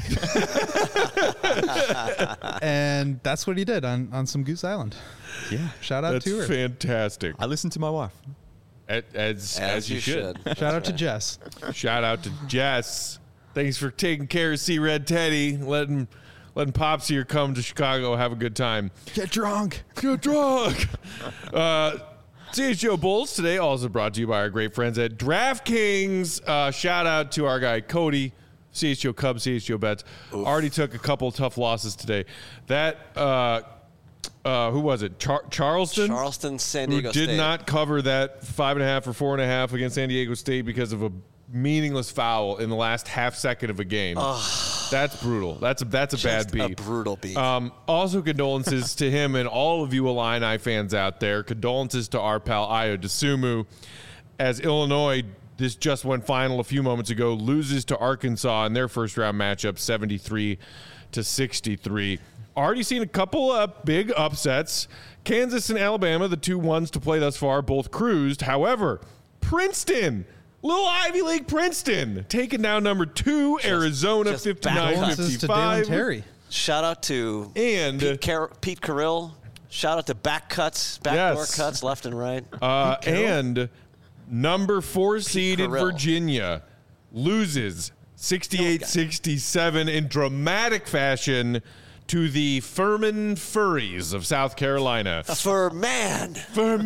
Speaker 3: And that's what he did on, on some Goose Island.
Speaker 4: Yeah,
Speaker 3: Shout out
Speaker 1: That's
Speaker 3: to her.
Speaker 1: fantastic.
Speaker 4: I listened to my wife.
Speaker 1: As, as, as you should.
Speaker 3: Shout out to Jess.
Speaker 1: Shout out to Jess. Thanks for taking care of C Red Teddy, letting letting Pops here come to Chicago, have a good time.
Speaker 3: Get drunk.
Speaker 1: Get drunk. uh, C H G O Bulls today also brought to you by our great friends at DraftKings. Uh, shout out to our guy Cody, C H G O Cubs, C H G O Bets.
Speaker 2: Oof.
Speaker 1: Already took a couple tough losses today. That uh, uh, who was it? Char- Charleston.
Speaker 2: Charleston, San
Speaker 1: who
Speaker 2: Diego
Speaker 1: did
Speaker 2: State.
Speaker 1: not cover that five and a half or four and a half against San Diego State because of a meaningless foul in the last half second of a game. That's brutal. That's a that's a
Speaker 2: Just
Speaker 1: bad beat.
Speaker 2: a brutal beat.
Speaker 1: Um, also, condolences to him and all of you Illini fans out there. Condolences to our pal Ayo Dosunmu, as Illinois, this just went final a few moments ago, loses to Arkansas in their first round matchup, seventy-three to sixty-three. Already seen a couple of big upsets. Kansas and Alabama, the two ones to play thus far, both cruised. However, Princeton, little Ivy League Princeton, taking down number two, Arizona,
Speaker 2: just
Speaker 1: fifty-nine
Speaker 3: Condolences to Dalen
Speaker 1: fifty-five.
Speaker 3: Terry.
Speaker 2: Shout out to
Speaker 1: And
Speaker 2: Pete, Car- Pete Carrill. Shout out to back cuts, backdoor
Speaker 1: Yes.
Speaker 2: cuts left and right.
Speaker 1: Uh, and Number four seeded
Speaker 2: Carell.
Speaker 1: Virginia loses sixty-eight sixty-seven in dramatic fashion to the Furman Furries of South Carolina.
Speaker 2: For man.
Speaker 1: Furman!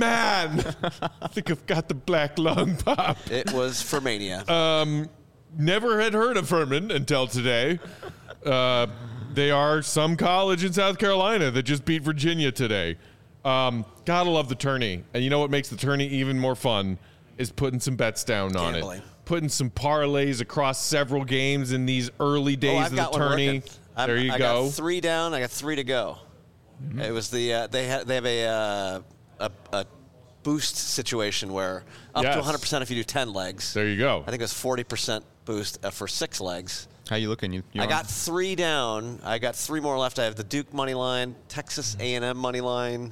Speaker 1: I think I've got the black lung pop.
Speaker 2: It was Furmania.
Speaker 1: Um, never had heard of Furman until today. Uh, they are some college in South Carolina that just beat Virginia today. Um, gotta love the tourney. And you know what makes the tourney even more fun is putting some bets down on
Speaker 2: Gambling.
Speaker 1: it. Putting some parlays across several games in these early days
Speaker 2: oh, I've
Speaker 1: of the
Speaker 2: got one
Speaker 1: tourney.
Speaker 2: working. I'm-
Speaker 1: There you
Speaker 2: I
Speaker 1: go.
Speaker 2: got three down. I got three to go.
Speaker 1: Mm-hmm.
Speaker 2: It was the uh, they ha- they have a, uh, a a boost situation where up
Speaker 1: Yes.
Speaker 2: to one hundred percent if you do ten legs.
Speaker 1: There you go.
Speaker 2: I think it was forty percent boost uh, for six legs.
Speaker 4: How you looking? You, you
Speaker 2: I
Speaker 4: on?
Speaker 2: got three down. I got three more left. I have the Duke money line, Texas A and M money line,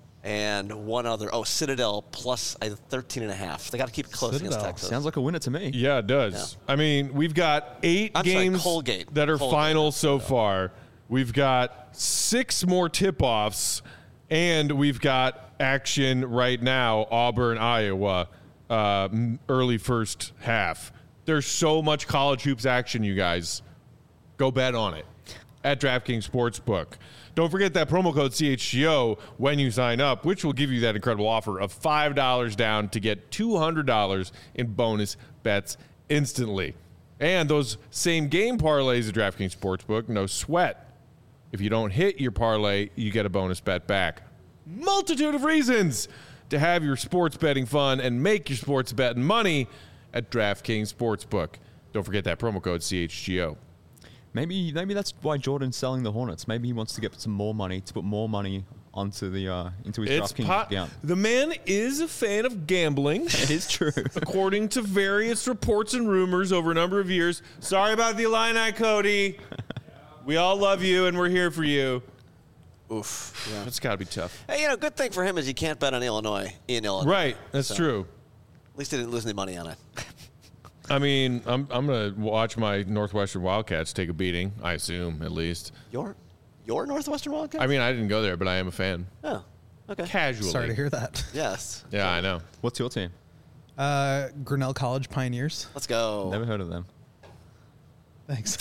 Speaker 2: and one other. Oh, Citadel plus I thirteen and a half. They got to keep it close
Speaker 3: Citadel.
Speaker 2: against Texas.
Speaker 4: Sounds like a winner to me.
Speaker 1: Yeah, it does. I mean, we've got eight
Speaker 2: I'm sorry,
Speaker 1: games
Speaker 2: Colgate.
Speaker 1: that are
Speaker 2: Colgate.
Speaker 1: final so far. We've got six more tip-offs, and we've got action right now, Auburn, Iowa, uh, m- early first half. There's so much college hoops action, you guys. Go bet on it at DraftKings Sportsbook. Don't forget that promo code C H G O when you sign up, which will give you that incredible offer of five dollars down to get two hundred dollars in bonus bets instantly. And those same game parlays at DraftKings Sportsbook, no sweat. If you don't hit your parlay, you get a bonus bet back. Multitude of reasons to have your sports betting fun and make your sports betting money at DraftKings Sportsbook. Don't forget that promo code C H G O.
Speaker 4: Maybe maybe that's why Jordan's selling the Hornets. Maybe he wants to get some more money to put more money onto the uh, into his
Speaker 1: It's
Speaker 4: DraftKings
Speaker 1: po-
Speaker 4: account.
Speaker 1: The man is a fan of gambling.
Speaker 4: It is true.
Speaker 1: According to various reports and rumors over a number of years. Sorry about the Illini, Cody. We all love you, and we're here for you.
Speaker 2: Oof. Yeah.
Speaker 1: It's got to be tough.
Speaker 2: Hey, you know, good thing for him is he can't bet on Illinois in Illinois.
Speaker 1: Right, that's
Speaker 2: So,
Speaker 1: true.
Speaker 2: At least he didn't lose any money on it.
Speaker 1: I mean, I'm I'm going to watch my Northwestern Wildcats take a beating, I assume, at least.
Speaker 2: Your, your Northwestern Wildcats?
Speaker 1: I mean, I didn't go there, but I am a fan.
Speaker 2: oh, okay.
Speaker 1: Casually.
Speaker 3: Sorry to hear that.
Speaker 2: Yes.
Speaker 1: Yeah, I know.
Speaker 4: What's your team?
Speaker 3: Uh, Grinnell College Pioneers.
Speaker 2: Let's go.
Speaker 4: Never heard of them.
Speaker 3: Thanks.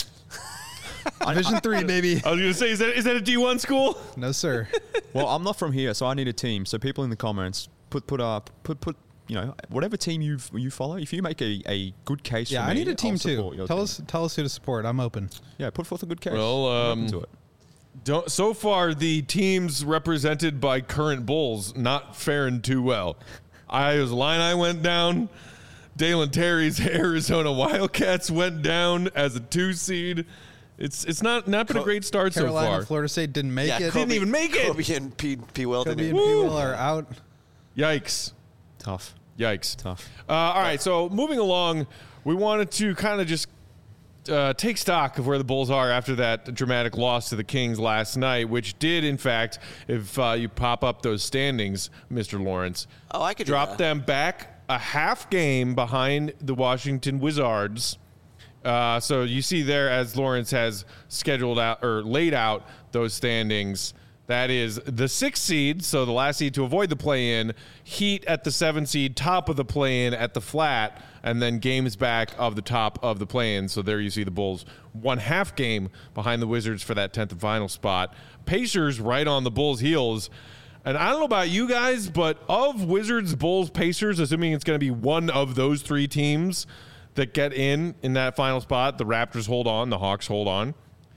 Speaker 3: Division three, baby.
Speaker 1: I was going to say, is that is that a D one school?
Speaker 3: No, sir.
Speaker 4: Well, I'm not from here, so I need a team. So people in the comments, put put up put put you know whatever team you you follow. If you make a, a good case,
Speaker 3: Yeah,
Speaker 4: for
Speaker 3: I
Speaker 4: me,
Speaker 3: need a team
Speaker 4: I'll
Speaker 3: too.
Speaker 4: support your
Speaker 3: Tell
Speaker 4: team.
Speaker 3: us, tell us who to support. I'm open.
Speaker 4: Yeah, put forth a good case.
Speaker 1: Well,
Speaker 4: I'm
Speaker 1: um,
Speaker 4: open to it.
Speaker 1: Don't, so far, the teams represented by current Bulls not faring too well. Iowa's Illini went down. Dalen Terry's Arizona Wildcats went down as a two seed. It's it's not not been a great start
Speaker 3: Carolina,
Speaker 1: so far.
Speaker 3: Florida State didn't make
Speaker 2: yeah,
Speaker 3: it.
Speaker 2: Kobe,
Speaker 1: Didn't even make it.
Speaker 2: Kobe and P. P. Will
Speaker 3: Kobe
Speaker 2: didn't
Speaker 3: and
Speaker 2: even-
Speaker 3: P. Will are out.
Speaker 1: Yikes!
Speaker 4: Tough,
Speaker 1: Yikes!
Speaker 4: tough.
Speaker 1: Uh, all right, so moving along, we wanted to kind of just uh, take stock of where the Bulls are after that dramatic loss to the Kings last night, which did, in fact, if uh, you pop up those standings, Mister Lawrence,
Speaker 2: Oh, I could do
Speaker 1: drop
Speaker 2: that.
Speaker 1: them back a half game behind the Washington Wizards. Uh, so you see there, as Lawrence has scheduled out or laid out those standings, that is the sixth seed, so the last seed to avoid the play-in, Heat at the seven seed, top of the play-in at the flat, and then games back of the top of the play-in. So there you see the Bulls one half game behind the Wizards for that tenth and final spot. Pacers right on the Bulls' heels. And I don't know about you guys, but of Wizards, Bulls, Pacers, assuming it's going to be one of those three teams that get in in that final spot, the Raptors hold on, the Hawks hold on.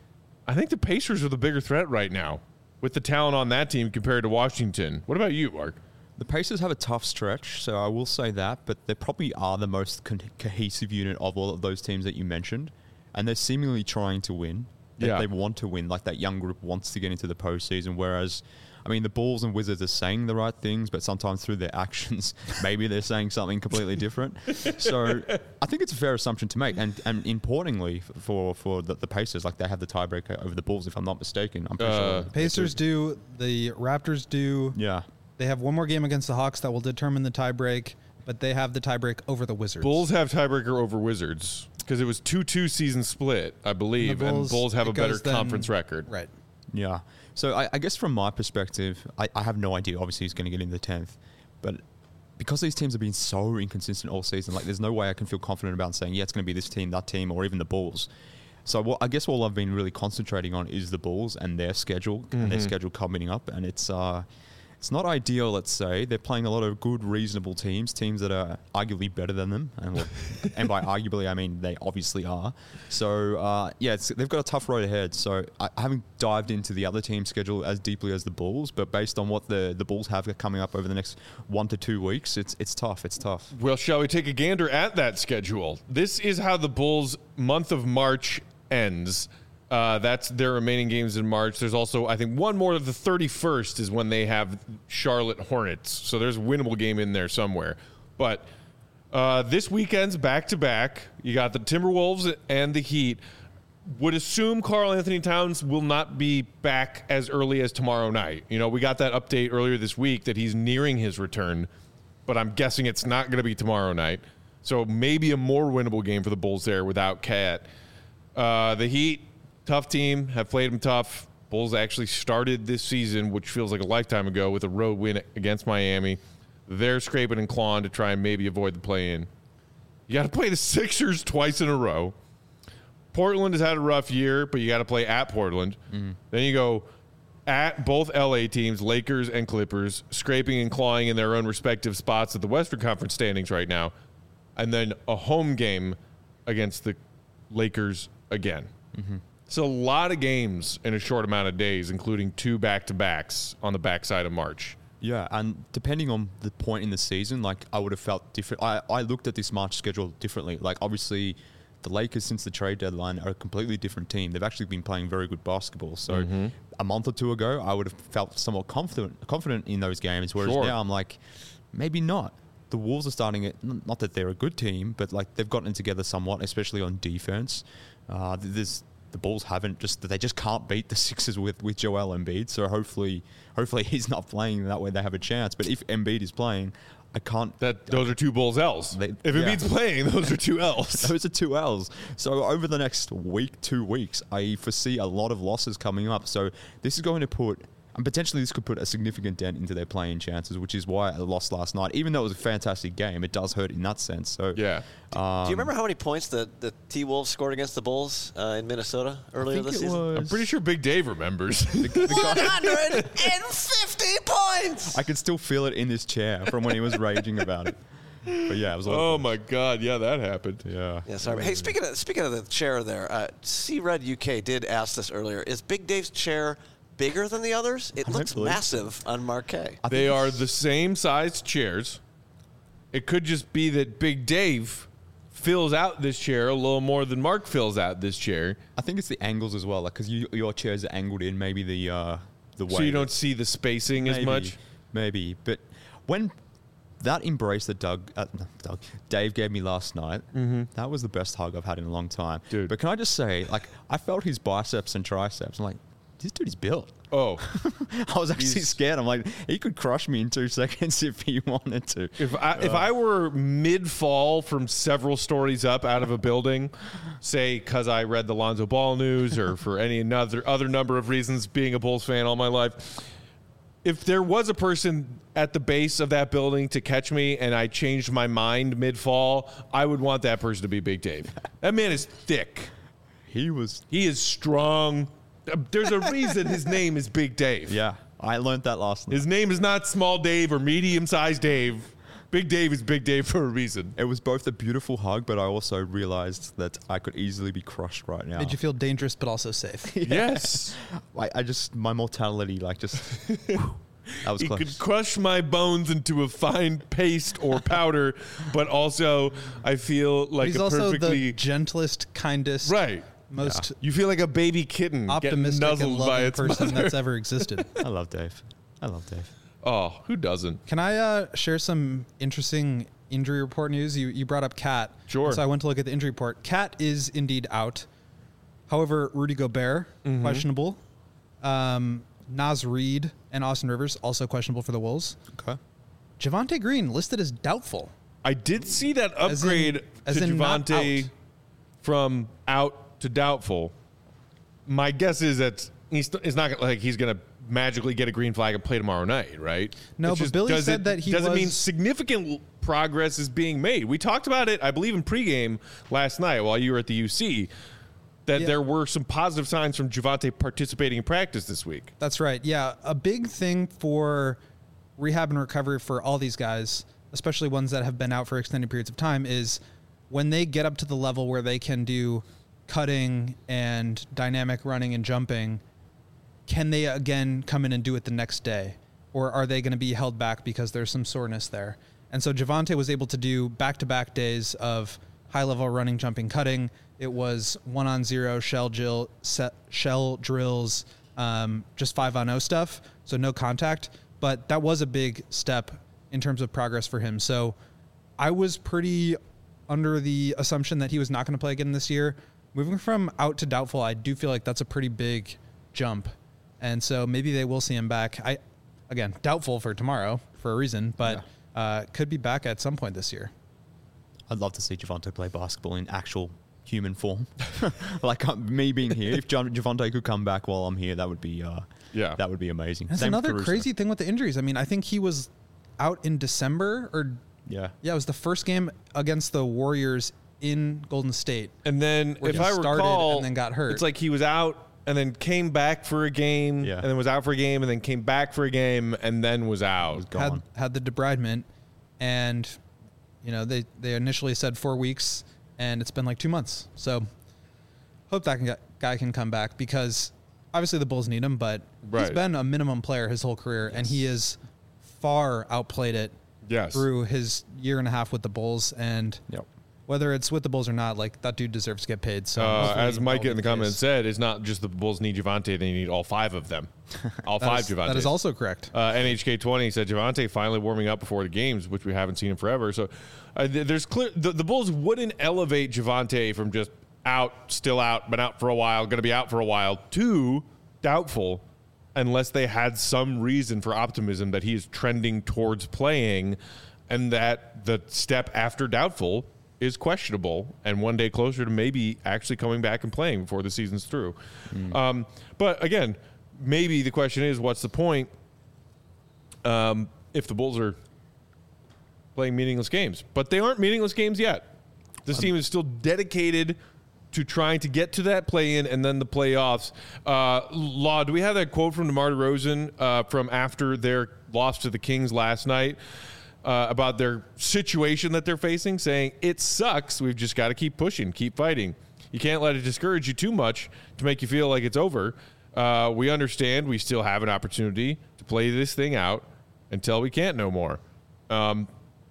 Speaker 1: I think the Pacers are the bigger threat right now with the talent on that team compared to Washington. What about you, Mark?
Speaker 4: The Pacers have a tough stretch, so I will say that, but they probably are the most co- cohesive unit of all of those teams that you mentioned, and they're seemingly trying to win. They,
Speaker 1: Yeah.
Speaker 4: they want to win, like that young group wants to get into the postseason, whereas, I mean, the Bulls and Wizards are saying the right things, but sometimes through their actions, maybe they're saying something completely different. So I think it's a fair assumption to make, and, and importantly for, for the, the Pacers, like they have the tiebreaker over the Bulls, if I'm not mistaken. I'm pretty
Speaker 1: Uh,
Speaker 4: sure.
Speaker 3: Pacers do. The Raptors do.
Speaker 4: Yeah.
Speaker 3: They have one more game against the Hawks that will determine the tiebreak, but they have the tiebreak over the Wizards.
Speaker 1: Bulls have tiebreaker over Wizards because it was two two season split, I believe, and Bulls,
Speaker 3: Bulls-
Speaker 1: have a
Speaker 3: it
Speaker 1: better
Speaker 3: goes then-
Speaker 1: conference record.
Speaker 3: Right.
Speaker 4: Yeah. So I, I guess from my perspective, I, I have no idea. Obviously, he's going to get in the tenth, but because these teams have been so inconsistent all season, like there's no way I can feel confident about saying, yeah, it's going to be this team, that team, or even the Bulls. So what, I guess all I've been really concentrating on is the Bulls and their schedule mm-hmm. and their schedule coming up. And it's uh, it's not ideal, let's say. They're playing a lot of good, reasonable teams, teams that are arguably better than them. And, well, and by arguably, I mean they obviously are. So, uh, yeah, it's, they've got a tough road ahead. So I, I haven't dived into the other team's schedule as deeply as the Bulls, but based on what the, the Bulls have coming up over the next one to two weeks, it's it's tough. It's tough.
Speaker 1: Well, shall we take a gander at that schedule? This is how the Bulls' month of March ends. Uh, that's their remaining games in March. There's also, I think, one more. The thirty-first is when they have Charlotte Hornets. So there's a winnable game in there somewhere. But uh, this weekend's back-to-back. You got the Timberwolves and the Heat. Would assume Karl Anthony Towns will not be back as early as tomorrow night. You know, we got that update earlier this week that he's nearing his return. But I'm guessing it's not going to be tomorrow night. So maybe a more winnable game for the Bulls there without Cat. Uh, the Heat, tough team, have played them tough. Bulls actually started this season, which feels like a lifetime ago, with a road win against Miami. They're scraping and clawing to try and maybe avoid the play-in. You got to play the Sixers twice in a row. Portland has had a rough year, but you got to play at Portland. Mm-hmm. Then you go at both L A teams, Lakers and Clippers, scraping and clawing in their own respective spots at the Western Conference standings right now. And then a home game against the Lakers again. Mm-hmm. So a lot of games in a short amount of days, including two back-to-backs on the backside of March.
Speaker 4: Yeah, and depending on the point in the season, like I would have felt different. I, I looked at this March schedule differently. Like obviously the Lakers since the trade deadline are a completely different team. They've actually been playing very good basketball. So mm-hmm. a month or two ago, I would have felt somewhat confident confident in those games, whereas sure. now I'm like, maybe not. The Wolves are starting it, not that they're a good team, but like they've gotten together somewhat, especially on defense. Uh, there's the Bulls haven't just they just can't beat the Sixers with, with Joel Embiid. So hopefully, hopefully he's not playing that way. They have a chance. But if Embiid is playing, I can't.
Speaker 1: That those are two Bulls L's. They, if yeah. Embiid's playing, those are two L's.
Speaker 4: Those are two L's. So over the next week, two weeks, I foresee a lot of losses coming up. So this is going to put. And potentially this could put a significant dent into their playing chances, which is why I lost last night. Even though it was a fantastic game, it does hurt in that sense. So
Speaker 1: yeah.
Speaker 2: Um, Do you remember how many points the, the T-Wolves scored against the Bulls uh, in Minnesota earlier this season?
Speaker 1: I'm pretty sure Big Dave remembers.
Speaker 2: the, the one hundred fifty points!
Speaker 4: I can still feel it in this chair from when he was raging about it. But yeah, it was.
Speaker 1: Oh my God! Yeah, that happened.
Speaker 4: Yeah.
Speaker 2: Yeah. Sorry. Hey, speaking of speaking of the chair, there, uh, C Red U K did ask this earlier. Is Big Dave's chair bigger than the others? It looks massive on Marquee.
Speaker 1: They are the same size chairs. It could just be that Big Dave fills out this chair a little more than Mark fills out this chair.
Speaker 4: I think it's the angles as well, like because you, your chairs are angled in, maybe the uh, the way.
Speaker 1: So you don't see the spacing
Speaker 4: maybe,
Speaker 1: as much.
Speaker 4: Maybe, but when that embrace that Doug, uh, Doug, Dave gave me last night, mm-hmm. that was the best hug I've had in a long time,
Speaker 1: dude.
Speaker 4: But can I just say, like, I felt his biceps and triceps. I'm like, this dude is built.
Speaker 1: Oh,
Speaker 4: I was actually scared. I'm like, he could crush me in two seconds if he wanted to.
Speaker 1: If I uh, if I were mid fall from several stories up out of a building, say because I read the Lonzo Ball news or for any another other number of reasons, being a Bulls fan all my life, if there was a person at the base of that building to catch me and I changed my mind mid fall, I would want that person to be Big Dave. That man is thick.
Speaker 4: He was.
Speaker 1: He is strong. There's a reason his name is Big Dave.
Speaker 4: Yeah, I learned that last night.
Speaker 1: His name is not Small Dave or Medium-Sized Dave. Big Dave is Big Dave for a reason.
Speaker 4: It was both a beautiful hug, but I also realized that I could easily be crushed right now.
Speaker 3: Made you feel dangerous, but also safe.
Speaker 1: Yes.
Speaker 4: I, I just, my mortality, like just... Whew, that was
Speaker 1: he
Speaker 4: close.
Speaker 1: could crush my bones into a fine paste or powder, but also I feel like
Speaker 3: He's
Speaker 1: a
Speaker 3: also
Speaker 1: perfectly...
Speaker 3: the gentlest, kindest...
Speaker 1: Right.
Speaker 3: Most
Speaker 1: yeah. You feel like a baby kitten
Speaker 3: optimistic
Speaker 1: getting nuzzled
Speaker 3: and loving
Speaker 1: by its
Speaker 3: person
Speaker 1: mother.
Speaker 3: that's ever existed.
Speaker 4: I love Dave. I love Dave.
Speaker 1: Oh, who doesn't?
Speaker 3: Can I uh, share some interesting injury report news? You you brought up Cat.
Speaker 1: Sure.
Speaker 3: So I went to look at the injury report. Cat is indeed out. However, Rudy Gobert, mm-hmm. questionable. Um, Naz Reid and Austin Rivers, also questionable for the Wolves.
Speaker 4: Okay.
Speaker 3: Javonte Green listed as doubtful.
Speaker 1: I did see that upgrade
Speaker 3: as in,
Speaker 1: to
Speaker 3: as in
Speaker 1: Javonte from out to doubtful. My guess is that he's it's not like he's going to magically get a green flag and play tomorrow night, right?
Speaker 3: No,
Speaker 1: It's
Speaker 3: but
Speaker 1: just,
Speaker 3: Billy
Speaker 1: does
Speaker 3: said
Speaker 1: it,
Speaker 3: that he
Speaker 1: doesn't mean
Speaker 3: was-
Speaker 1: significant progress is being made. We talked about it, I believe, in pregame last night while you were at the U C, that
Speaker 3: Yeah.
Speaker 1: there were some positive signs from Javonte participating in practice this week.
Speaker 3: That's right. Yeah, a big thing for rehab and recovery for all these guys, especially ones that have been out for extended periods of time, is when they get up to the level where they can do cutting and dynamic running and jumping, can they again come in and do it the next day? Or are they going to be held back because there's some soreness there? And so Javonte was able to do back-to-back days of high-level running, jumping, cutting. It was one-on-zero shell, drill, set, shell drills, um, just five-on-oh stuff, so no contact. But that was a big step in terms of progress for him. So I was pretty under the assumption that he was not going to play again this year. Moving from out to doubtful, I do feel like that's a pretty big jump. And so maybe they will see him back. I, again, doubtful for tomorrow for a reason, but yeah. uh, could be back at some point this year.
Speaker 4: I'd love to see Javonte play basketball in actual human form. Like uh, me being here, if Jav- Javonte could come back while I'm here, that would be uh,
Speaker 1: Yeah.
Speaker 4: that would be amazing.
Speaker 3: That's
Speaker 4: Same with
Speaker 3: another
Speaker 4: Caruso.
Speaker 3: crazy thing with the injuries. I mean, I think he was out in December or
Speaker 4: Yeah.
Speaker 3: yeah, it was the first game against the Warriors in Golden State.
Speaker 1: And then,
Speaker 3: Where
Speaker 1: if
Speaker 3: he
Speaker 1: I
Speaker 3: started
Speaker 1: recall,
Speaker 3: and then got hurt.
Speaker 1: it's like he was out and then came back for a game,
Speaker 4: Yeah.
Speaker 1: and then was out for a game, and then came back for a game, and then was out.
Speaker 4: Gone.
Speaker 3: had had the debridement, and you know they they initially said four weeks, and it's been like two months. So hope that can get, guy can come back, because obviously the Bulls need him, but he's
Speaker 1: Right.
Speaker 3: been a minimum player his whole career, and he has far outplayed it
Speaker 1: Yes.
Speaker 3: through his year and a half with the Bulls. And
Speaker 4: Yep.
Speaker 3: whether it's with the Bulls or not, like that dude deserves to get paid. So
Speaker 1: Uh,
Speaker 3: hopefully
Speaker 1: as Mike
Speaker 3: that'll
Speaker 1: in
Speaker 3: be
Speaker 1: the comments
Speaker 3: case.
Speaker 1: said, it's not just the Bulls need Javonte; they need all five of them, all
Speaker 3: That
Speaker 1: five
Speaker 3: is-
Speaker 1: Javontes.
Speaker 3: that is also correct.
Speaker 1: Uh, N H K twenty said Javonte finally warming up before the games, which we haven't seen in forever. So uh, th- there's clear the, the Bulls wouldn't elevate Javonte from just out, still out, been out for a while, going to be out for a while, to doubtful, unless they had some reason for optimism that he is trending towards playing, and that the step after doubtful is questionable and one day closer to maybe actually coming back and playing before the season's through.
Speaker 4: Mm.
Speaker 1: Um, but again, maybe the question is, what's the point um, if the Bulls are playing meaningless games? But they aren't meaningless games yet. This team is still dedicated to trying to get to that play-in and then the playoffs. Uh, Law, do we have that quote from DeMar DeRozan uh, from after their loss to the Kings last night? Uh, about their situation that they're facing, saying, it sucks. We've just got to keep pushing, keep fighting. You can't let it discourage you too much to make you feel like it's over. Uh, we understand we still have an opportunity to play this thing out until we can't no more. Um,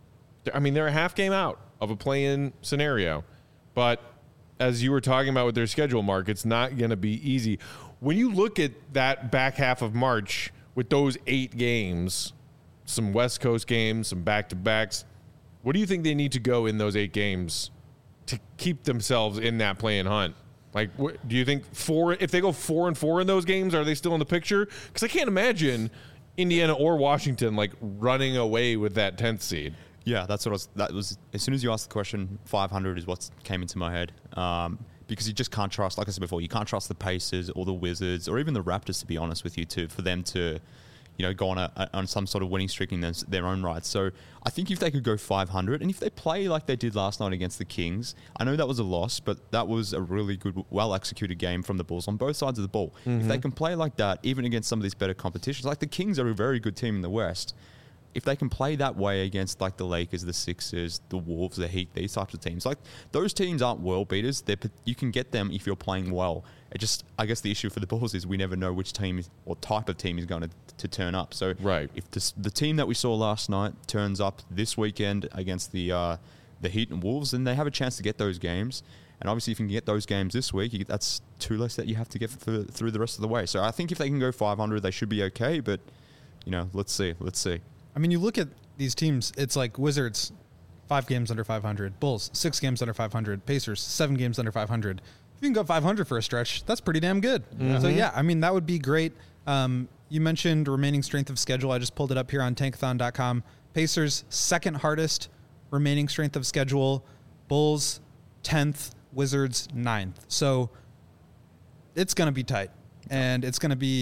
Speaker 1: I mean, they're a half game out of a play-in scenario. But as you were talking about with their schedule, Mark, it's not going to be easy. When you look at that back half of March with those eight games, some West Coast games, some back-to-backs. What do you think they need to go in those eight games to keep themselves in that play-in hunt? Like, what, do you think four? If they go four and four in those games, are they still in the picture? Because I can't imagine Indiana or Washington like running away with that tenth seed.
Speaker 4: Yeah, that's what I was. That was as soon as you asked the question, five hundred is what came into my head. Um, because you just can't trust, like I said before, you can't trust the Pacers or the Wizards or even the Raptors, to be honest with you, to for them to, you know, go on a, a on some sort of winning streak in their, their own right. So I think if they could go five hundred, and if they play like they did last night against the Kings, I know that was a loss, but that was a really good, well-executed game from the Bulls on both sides of the ball. Mm-hmm. If they can play like that, even against some of these better competitions, like the Kings are a very good team in the West. If they can play that way against like the Lakers, the Sixers, the Wolves, the Heat, these types of teams, like those teams aren't world beaters. They're, you can get them if you're playing well. It just, I guess the issue for the Bulls is we never know which team is, or type of team is going to, to turn up. So
Speaker 1: right.
Speaker 4: if this, the team that we saw last night turns up this weekend against the uh, the Heat and Wolves, then they have a chance to get those games. And obviously, if you can get those games this week, you, that's two less that you have to get through, through the rest of the way. So I think if they can go five hundred, they should be okay. But, you know, let's see. Let's see.
Speaker 3: I mean, you look at these teams, it's like Wizards, five games under five hundred. Bulls, six games under five hundred. Pacers, seven games under five hundred. If you can go five hundred for a stretch, that's pretty damn good. Mm-hmm. So, yeah, I mean, that would be great. Um, you mentioned remaining strength of schedule. I just pulled it up here on tankathon dot com. Pacers, second hardest remaining strength of schedule. Bulls, tenth. Wizards, ninth. So, it's going to be tight. And it's going to be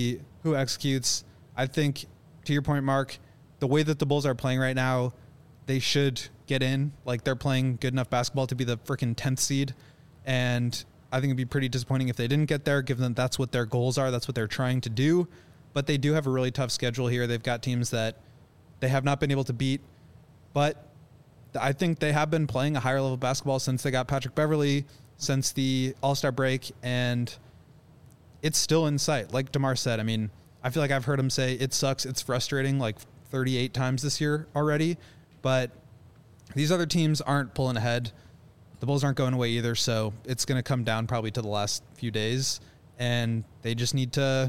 Speaker 3: who executes. I think, to your point, Mark, the way that the Bulls are playing right now, they should get in. Like, they're playing good enough basketball to be the freaking tenth seed. And I think it'd be pretty disappointing if they didn't get there, given that that's what their goals are. That's what they're trying to do. But they do have a really tough schedule here. They've got teams that they have not been able to beat. But I think they have been playing a higher level of basketball since they got Patrick Beverley, since the All-Star break, and it's still in sight. Like DeMar said, I mean, I feel like I've heard him say it sucks, it's frustrating like thirty-eight times this year already, but these other teams aren't pulling ahead. The Bulls aren't going away either, so it's going to come down probably to the last few days, and they just need to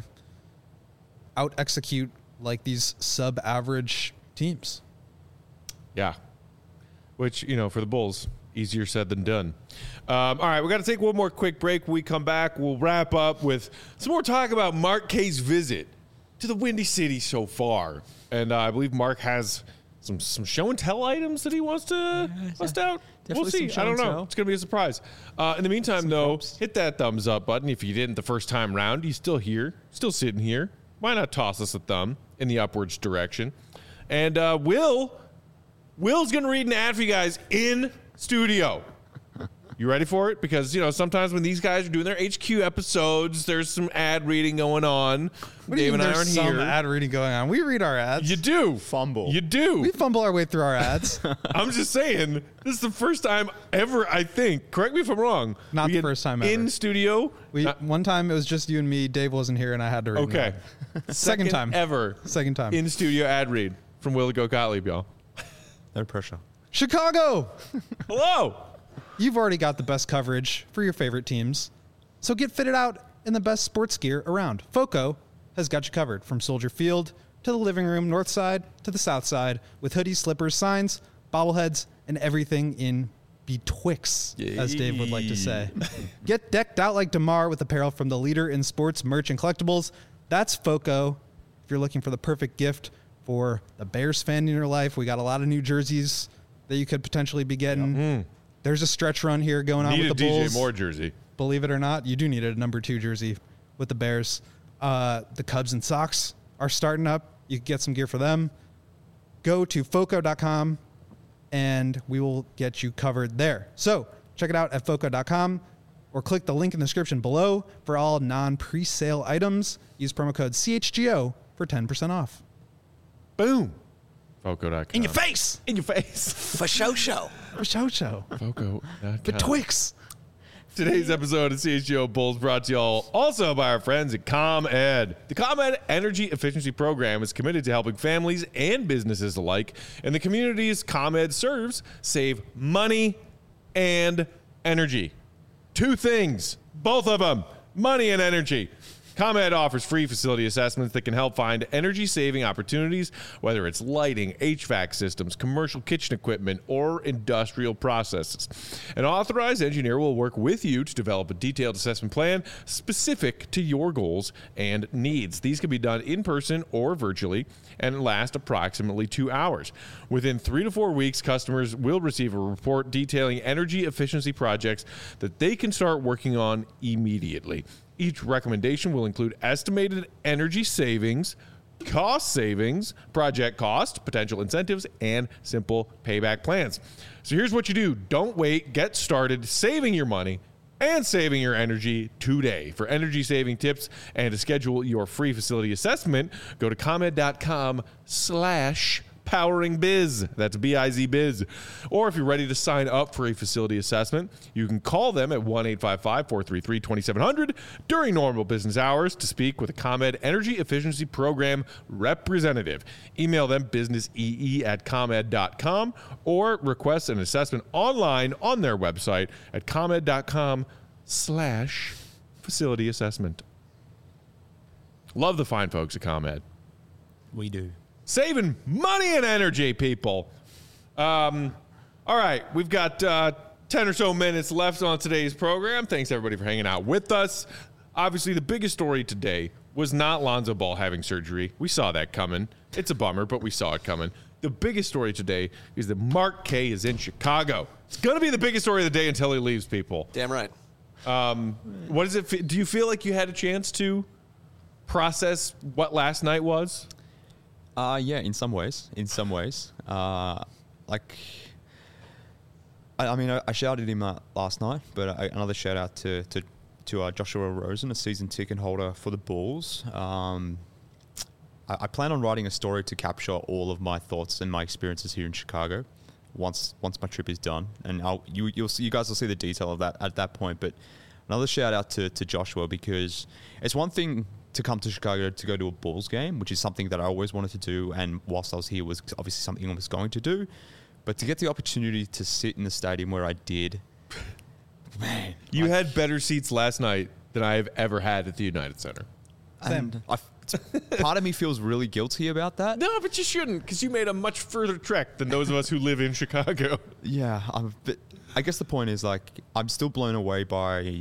Speaker 3: out-execute like these sub-average teams.
Speaker 1: Yeah. Which, you know, for the Bulls, easier said than done. Um, all right, we got to take one more quick break. When we come back, we'll wrap up with some more talk about Mark K's visit to the Windy City so far. And uh, I believe Mark has some some show and tell items that he wants to
Speaker 4: Yeah,
Speaker 1: bust out. We'll
Speaker 4: definitely
Speaker 1: see.
Speaker 4: some show
Speaker 1: I don't
Speaker 4: and
Speaker 1: know.
Speaker 4: tell.
Speaker 1: It's going to be a surprise. Uh, in the meantime,
Speaker 4: Some
Speaker 1: though,
Speaker 4: props.
Speaker 1: hit that thumbs up button. If you didn't the first time round, you're still here, still sitting here. Why not toss us a thumb in the upwards direction? And uh, Will... Will's going to read an ad for you guys in studio. You ready for it? Because, you know, sometimes when these guys are doing their H Q episodes, there's some ad reading going on.
Speaker 3: What do you
Speaker 1: Dave and
Speaker 3: mean
Speaker 1: I
Speaker 3: there's
Speaker 1: aren't
Speaker 3: some
Speaker 1: here.
Speaker 3: ad reading going on? We read our ads.
Speaker 1: You do.
Speaker 4: Fumble.
Speaker 1: You do.
Speaker 3: We fumble our way through our ads.
Speaker 1: I'm just saying, this is the first time ever, I think. Correct me if I'm wrong.
Speaker 3: Not
Speaker 1: we
Speaker 3: the
Speaker 1: get
Speaker 3: first time ever.
Speaker 1: in studio.
Speaker 3: We
Speaker 1: Not-
Speaker 3: one time it was just you and me. Dave wasn't here, and I had to read. an
Speaker 1: okay.
Speaker 3: ad. Second time.
Speaker 1: ever.
Speaker 3: Second time.
Speaker 1: In studio ad read from Will Go Gottlieb, y'all.
Speaker 4: No pressure.
Speaker 3: Chicago.
Speaker 1: Hello.
Speaker 3: You've already got the best coverage for your favorite teams, so get fitted out in the best sports gear around. Foco has got you covered from Soldier Field to the living room, north side to the south side, with hoodies, slippers, signs, bobbleheads, and everything in betwixt, as Dave would like to say. Get decked out like DeMar with apparel from the leader in sports merch and collectibles. That's Foco. If you're looking for the perfect gift for the Bears fan in your life, we got a lot of new jerseys that you could potentially be getting. There's a stretch run here going on
Speaker 1: Need
Speaker 3: with
Speaker 1: a
Speaker 3: the
Speaker 1: D
Speaker 3: Bulls.
Speaker 1: J Moore jersey.
Speaker 3: Believe it or not, you do need a number two jersey with the Bears. Uh, the Cubs and Sox are starting up. You can get some gear for them. Go to foco dot com and we will get you covered there. So check it out at foco dot com or click the link in the description below for all non-presale items. Use promo code C H G O for ten percent off.
Speaker 1: Boom. Foco dot com.
Speaker 3: In your face!
Speaker 1: In your face.
Speaker 2: For show show.
Speaker 3: For show show.
Speaker 1: Foco dot com.
Speaker 3: Betwixt.
Speaker 1: Today's episode of C H G O Bulls brought to y'all also by our friends at ComEd. The ComEd Energy Efficiency Program is committed to helping families and businesses alike in the communities ComEd serves save money and energy. Two things, both of them, money and energy. ComEd offers free facility assessments that can help find energy-saving opportunities, whether it's lighting, H V A C systems, commercial kitchen equipment, or industrial processes. An authorized engineer will work with you to develop a detailed assessment plan specific to your goals and needs. These can be done in person or virtually and last approximately two hours. Within three to four weeks, customers will receive a report detailing energy efficiency projects that they can start working on immediately. Each recommendation will include estimated energy savings, cost savings, project cost, potential incentives, and simple payback plans. So here's what you do. Don't wait. Get started saving your money and saving your energy today. For energy saving tips and to schedule your free facility assessment, go to comed dot com slash powering biz. That's B I Z biz. Or if you're ready to sign up for a facility assessment, you can call them at one eight five five, four three three, two seven zero zero during normal business hours to speak with a ComEd Energy Efficiency Program representative. Email them businessee at comed dot com or request an assessment online on their website at comed dot com slash facility assessment. Love the fine folks at ComEd.
Speaker 4: We do.
Speaker 1: Saving money and energy, people. Um, all right, we've got uh, ten or so minutes left on today's program. Thanks, everybody, for hanging out with us. Obviously, the biggest story today was not Lonzo Ball having surgery. We saw that coming. It's a bummer, but we saw it coming. The biggest story today is that Mark K is in Chicago. It's going to be the biggest story of the day until he leaves, people.
Speaker 2: Damn right.
Speaker 1: Um, what does it? Fe- do you feel like you had a chance to process what last night was?
Speaker 4: Uh, yeah, in some ways. In some ways. Uh, like, I, I mean, I, I shouted him uh, last night, but I, another shout out to to, to uh, Joshua Rosen, a season ticket holder for the Bulls. Um, I, I plan on writing a story to capture all of my thoughts and my experiences here in Chicago once once my trip is done, and I'll, you you'll see, you guys will see the detail of that at that point. But another shout out to to Joshua, because it's one thing to come to Chicago to go to a Bulls game, which is something that I always wanted to do, and whilst I was here was obviously something I was going to do, but to get the opportunity to sit in the stadium where I did, man.
Speaker 1: You
Speaker 4: like,
Speaker 1: had better seats last night than I have ever had at the United Center.
Speaker 4: and I, part of me feels really guilty about that.
Speaker 1: No, but you shouldn't, because you made a much further trek than those of us who live in Chicago.
Speaker 4: Yeah, I'm, but I guess the point is, like, I'm still blown away by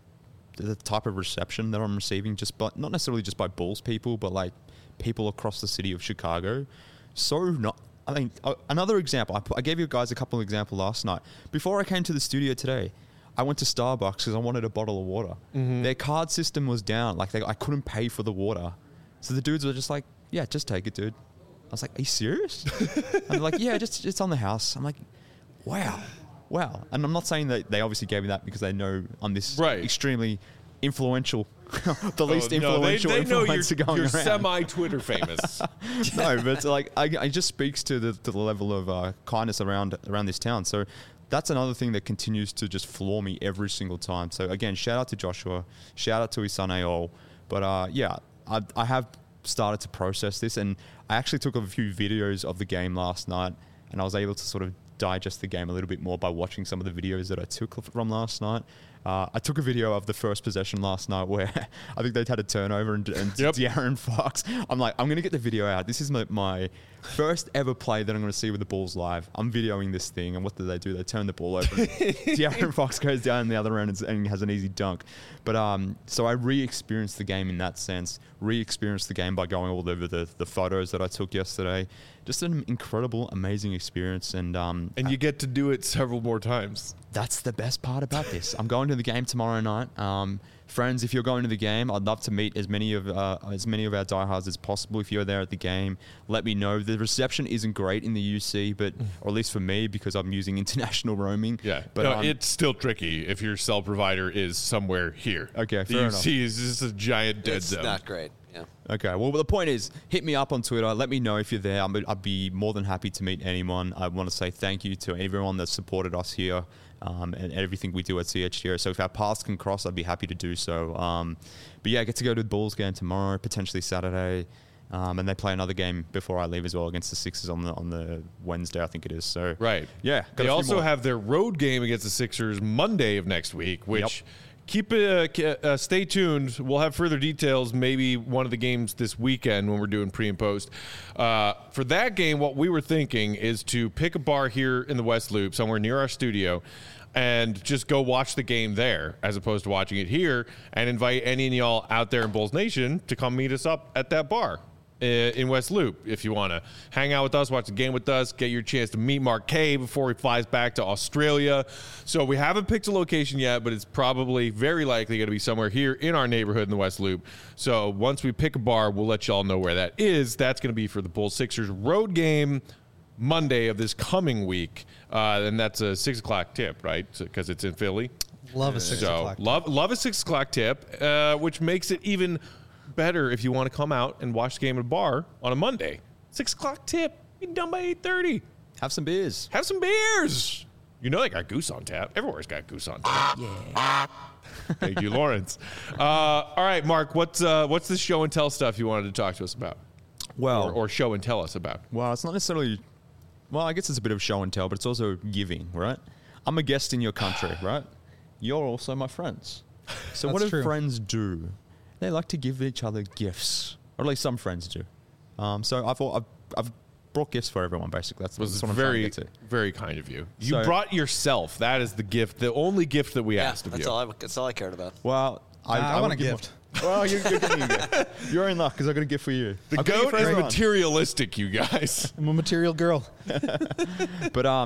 Speaker 4: the type of reception that I'm receiving, just by, not necessarily just by Bulls people, but like people across the city of Chicago. So not, I mean, uh, another example, I, put, I gave you guys a couple of examples last night. Before I came to the studio today, I went to Starbucks because I wanted a bottle of water. Mm-hmm. Their card system was down. Like, they, I couldn't pay for the water. So the dudes were just like, yeah, just take it, dude. I was like, are you serious? And they're like, yeah, just it's on the house. I'm like, wow. Wow. And I'm not saying that they obviously gave me that because they know I'm this
Speaker 1: right.
Speaker 4: extremely influential, the least
Speaker 1: oh, no,
Speaker 4: influential
Speaker 1: they, they know
Speaker 4: influencer
Speaker 1: you're,
Speaker 4: going
Speaker 1: you're
Speaker 4: around.
Speaker 1: semi-Twitter famous.
Speaker 4: No, but like, I, it just speaks to the, to the level of uh, kindness around around this town. So that's another thing that continues to just floor me every single time. So again, shout out to Joshua, shout out to his son Aol. But uh, yeah, I, I have started to process this, and I actually took a few videos of the game last night, and I was able to sort of digest the game a little bit more by watching some of the videos that I took from last night. Uh, I took a video of the first possession last night where I think they'd had a turnover and, and
Speaker 1: yep.
Speaker 4: De'Aaron Fox. I'm like, I'm going to get the video out. This is my, my first ever play that I'm going to see with the Bulls live. I'm videoing this thing, and what do they do? They turn the ball over. De'Aaron Fox goes down the other end and, and has an easy dunk. But um, so I re-experienced the game in that sense, re-experienced the game by going all over the, the photos that I took yesterday. Just an incredible, amazing experience. And um,
Speaker 1: and you get to do it several more times.
Speaker 4: That's the best part about this. I'm going to the game tomorrow night. Um, friends, if you're going to the game, I'd love to meet as many of uh, as many of our diehards as possible. If you're there at the game, let me know. The reception isn't great in the U C, but or at least for me, because I'm using international roaming.
Speaker 1: Yeah,
Speaker 4: but
Speaker 1: no,
Speaker 4: um,
Speaker 1: it's still tricky if your cell provider is somewhere here.
Speaker 4: Okay,
Speaker 1: the
Speaker 4: fair
Speaker 1: U
Speaker 4: enough.
Speaker 1: C is just a giant dead
Speaker 2: It's
Speaker 1: zone.
Speaker 2: not great. Yeah.
Speaker 4: Okay, well, the point is, hit me up on Twitter. Let me know if you're there. I'm, I'd be more than happy to meet anyone. I want to say thank you to everyone that supported us here um, and everything we do at C H G O. So if our paths can cross, I'd be happy to do so. Um, but yeah, I get to go to the Bulls game tomorrow, potentially Saturday. Um, and they play another game before I leave as well against the Sixers on the on the Wednesday, I think it is. So
Speaker 1: Right.
Speaker 4: yeah. got a
Speaker 1: They
Speaker 4: few
Speaker 1: also
Speaker 4: more.
Speaker 1: have their road game against the Sixers Monday of next week, which
Speaker 4: Yep.
Speaker 1: keep it, uh, uh, stay tuned. We'll have further details, maybe one of the games this weekend when we're doing pre and post. Uh, for that game, what we were thinking is to pick a bar here in the West Loop, somewhere near our studio, and just go watch the game there as opposed to watching it here, and invite any of y'all out there in Bulls Nation to come meet us up at that bar in West Loop. If you want to hang out with us, watch the game with us, get your chance to meet Mark Kay before he flies back to Australia. So we haven't picked a location yet, but it's probably very likely going to be somewhere here in our neighborhood in the West Loop. So once we pick a bar, we'll let y'all know where that is. That's going to be for the Bulls Sixers road game Monday of this coming week. Uh, and that's a six o'clock tip, right? Because so, it's in Philly.
Speaker 3: Love a six
Speaker 1: so
Speaker 3: o'clock.
Speaker 1: Love, love a six o'clock tip, uh, which makes it even better if you want to come out and watch the game at a bar on a Monday. Six o'clock tip. Be done by eight thirty.
Speaker 4: Have some beers.
Speaker 1: Have some beers. You know they got Goose on tap. Everywhere's got Goose on tap. Yeah. Thank you, Lawrence. Uh, all right, Mark. What's uh, what's the show and tell stuff you wanted to talk to us about?
Speaker 4: Well,
Speaker 1: or, or show and tell us about?
Speaker 4: Well, it's not necessarily. Well, I guess it's a bit of show and tell, but it's also giving, right? I'm a guest in your country, right? You're also my friends. So
Speaker 3: That's
Speaker 4: what do
Speaker 3: true.
Speaker 4: friends do? They like to give each other gifts, or at least some friends do. Um, so I've, I've I've brought gifts for everyone. Basically, that's,
Speaker 1: Was
Speaker 4: that's what I'm trying
Speaker 1: very
Speaker 4: to get to.
Speaker 1: very kind of you. You
Speaker 4: So-
Speaker 1: brought yourself. That is the gift. The only gift that we
Speaker 2: Yeah,
Speaker 1: asked of
Speaker 2: that's
Speaker 1: you.
Speaker 2: all I, that's all I cared about.
Speaker 4: Well, I,
Speaker 3: Nah, I want
Speaker 4: would
Speaker 3: a
Speaker 4: give
Speaker 3: gift.
Speaker 4: one- Well, you're, you're getting a gift. You're in luck because I got a gift for you.
Speaker 1: the
Speaker 4: I've got a gift
Speaker 1: goat
Speaker 4: for
Speaker 1: is
Speaker 4: everyone.
Speaker 1: materialistic, you guys.
Speaker 3: I'm a material girl.
Speaker 4: But um,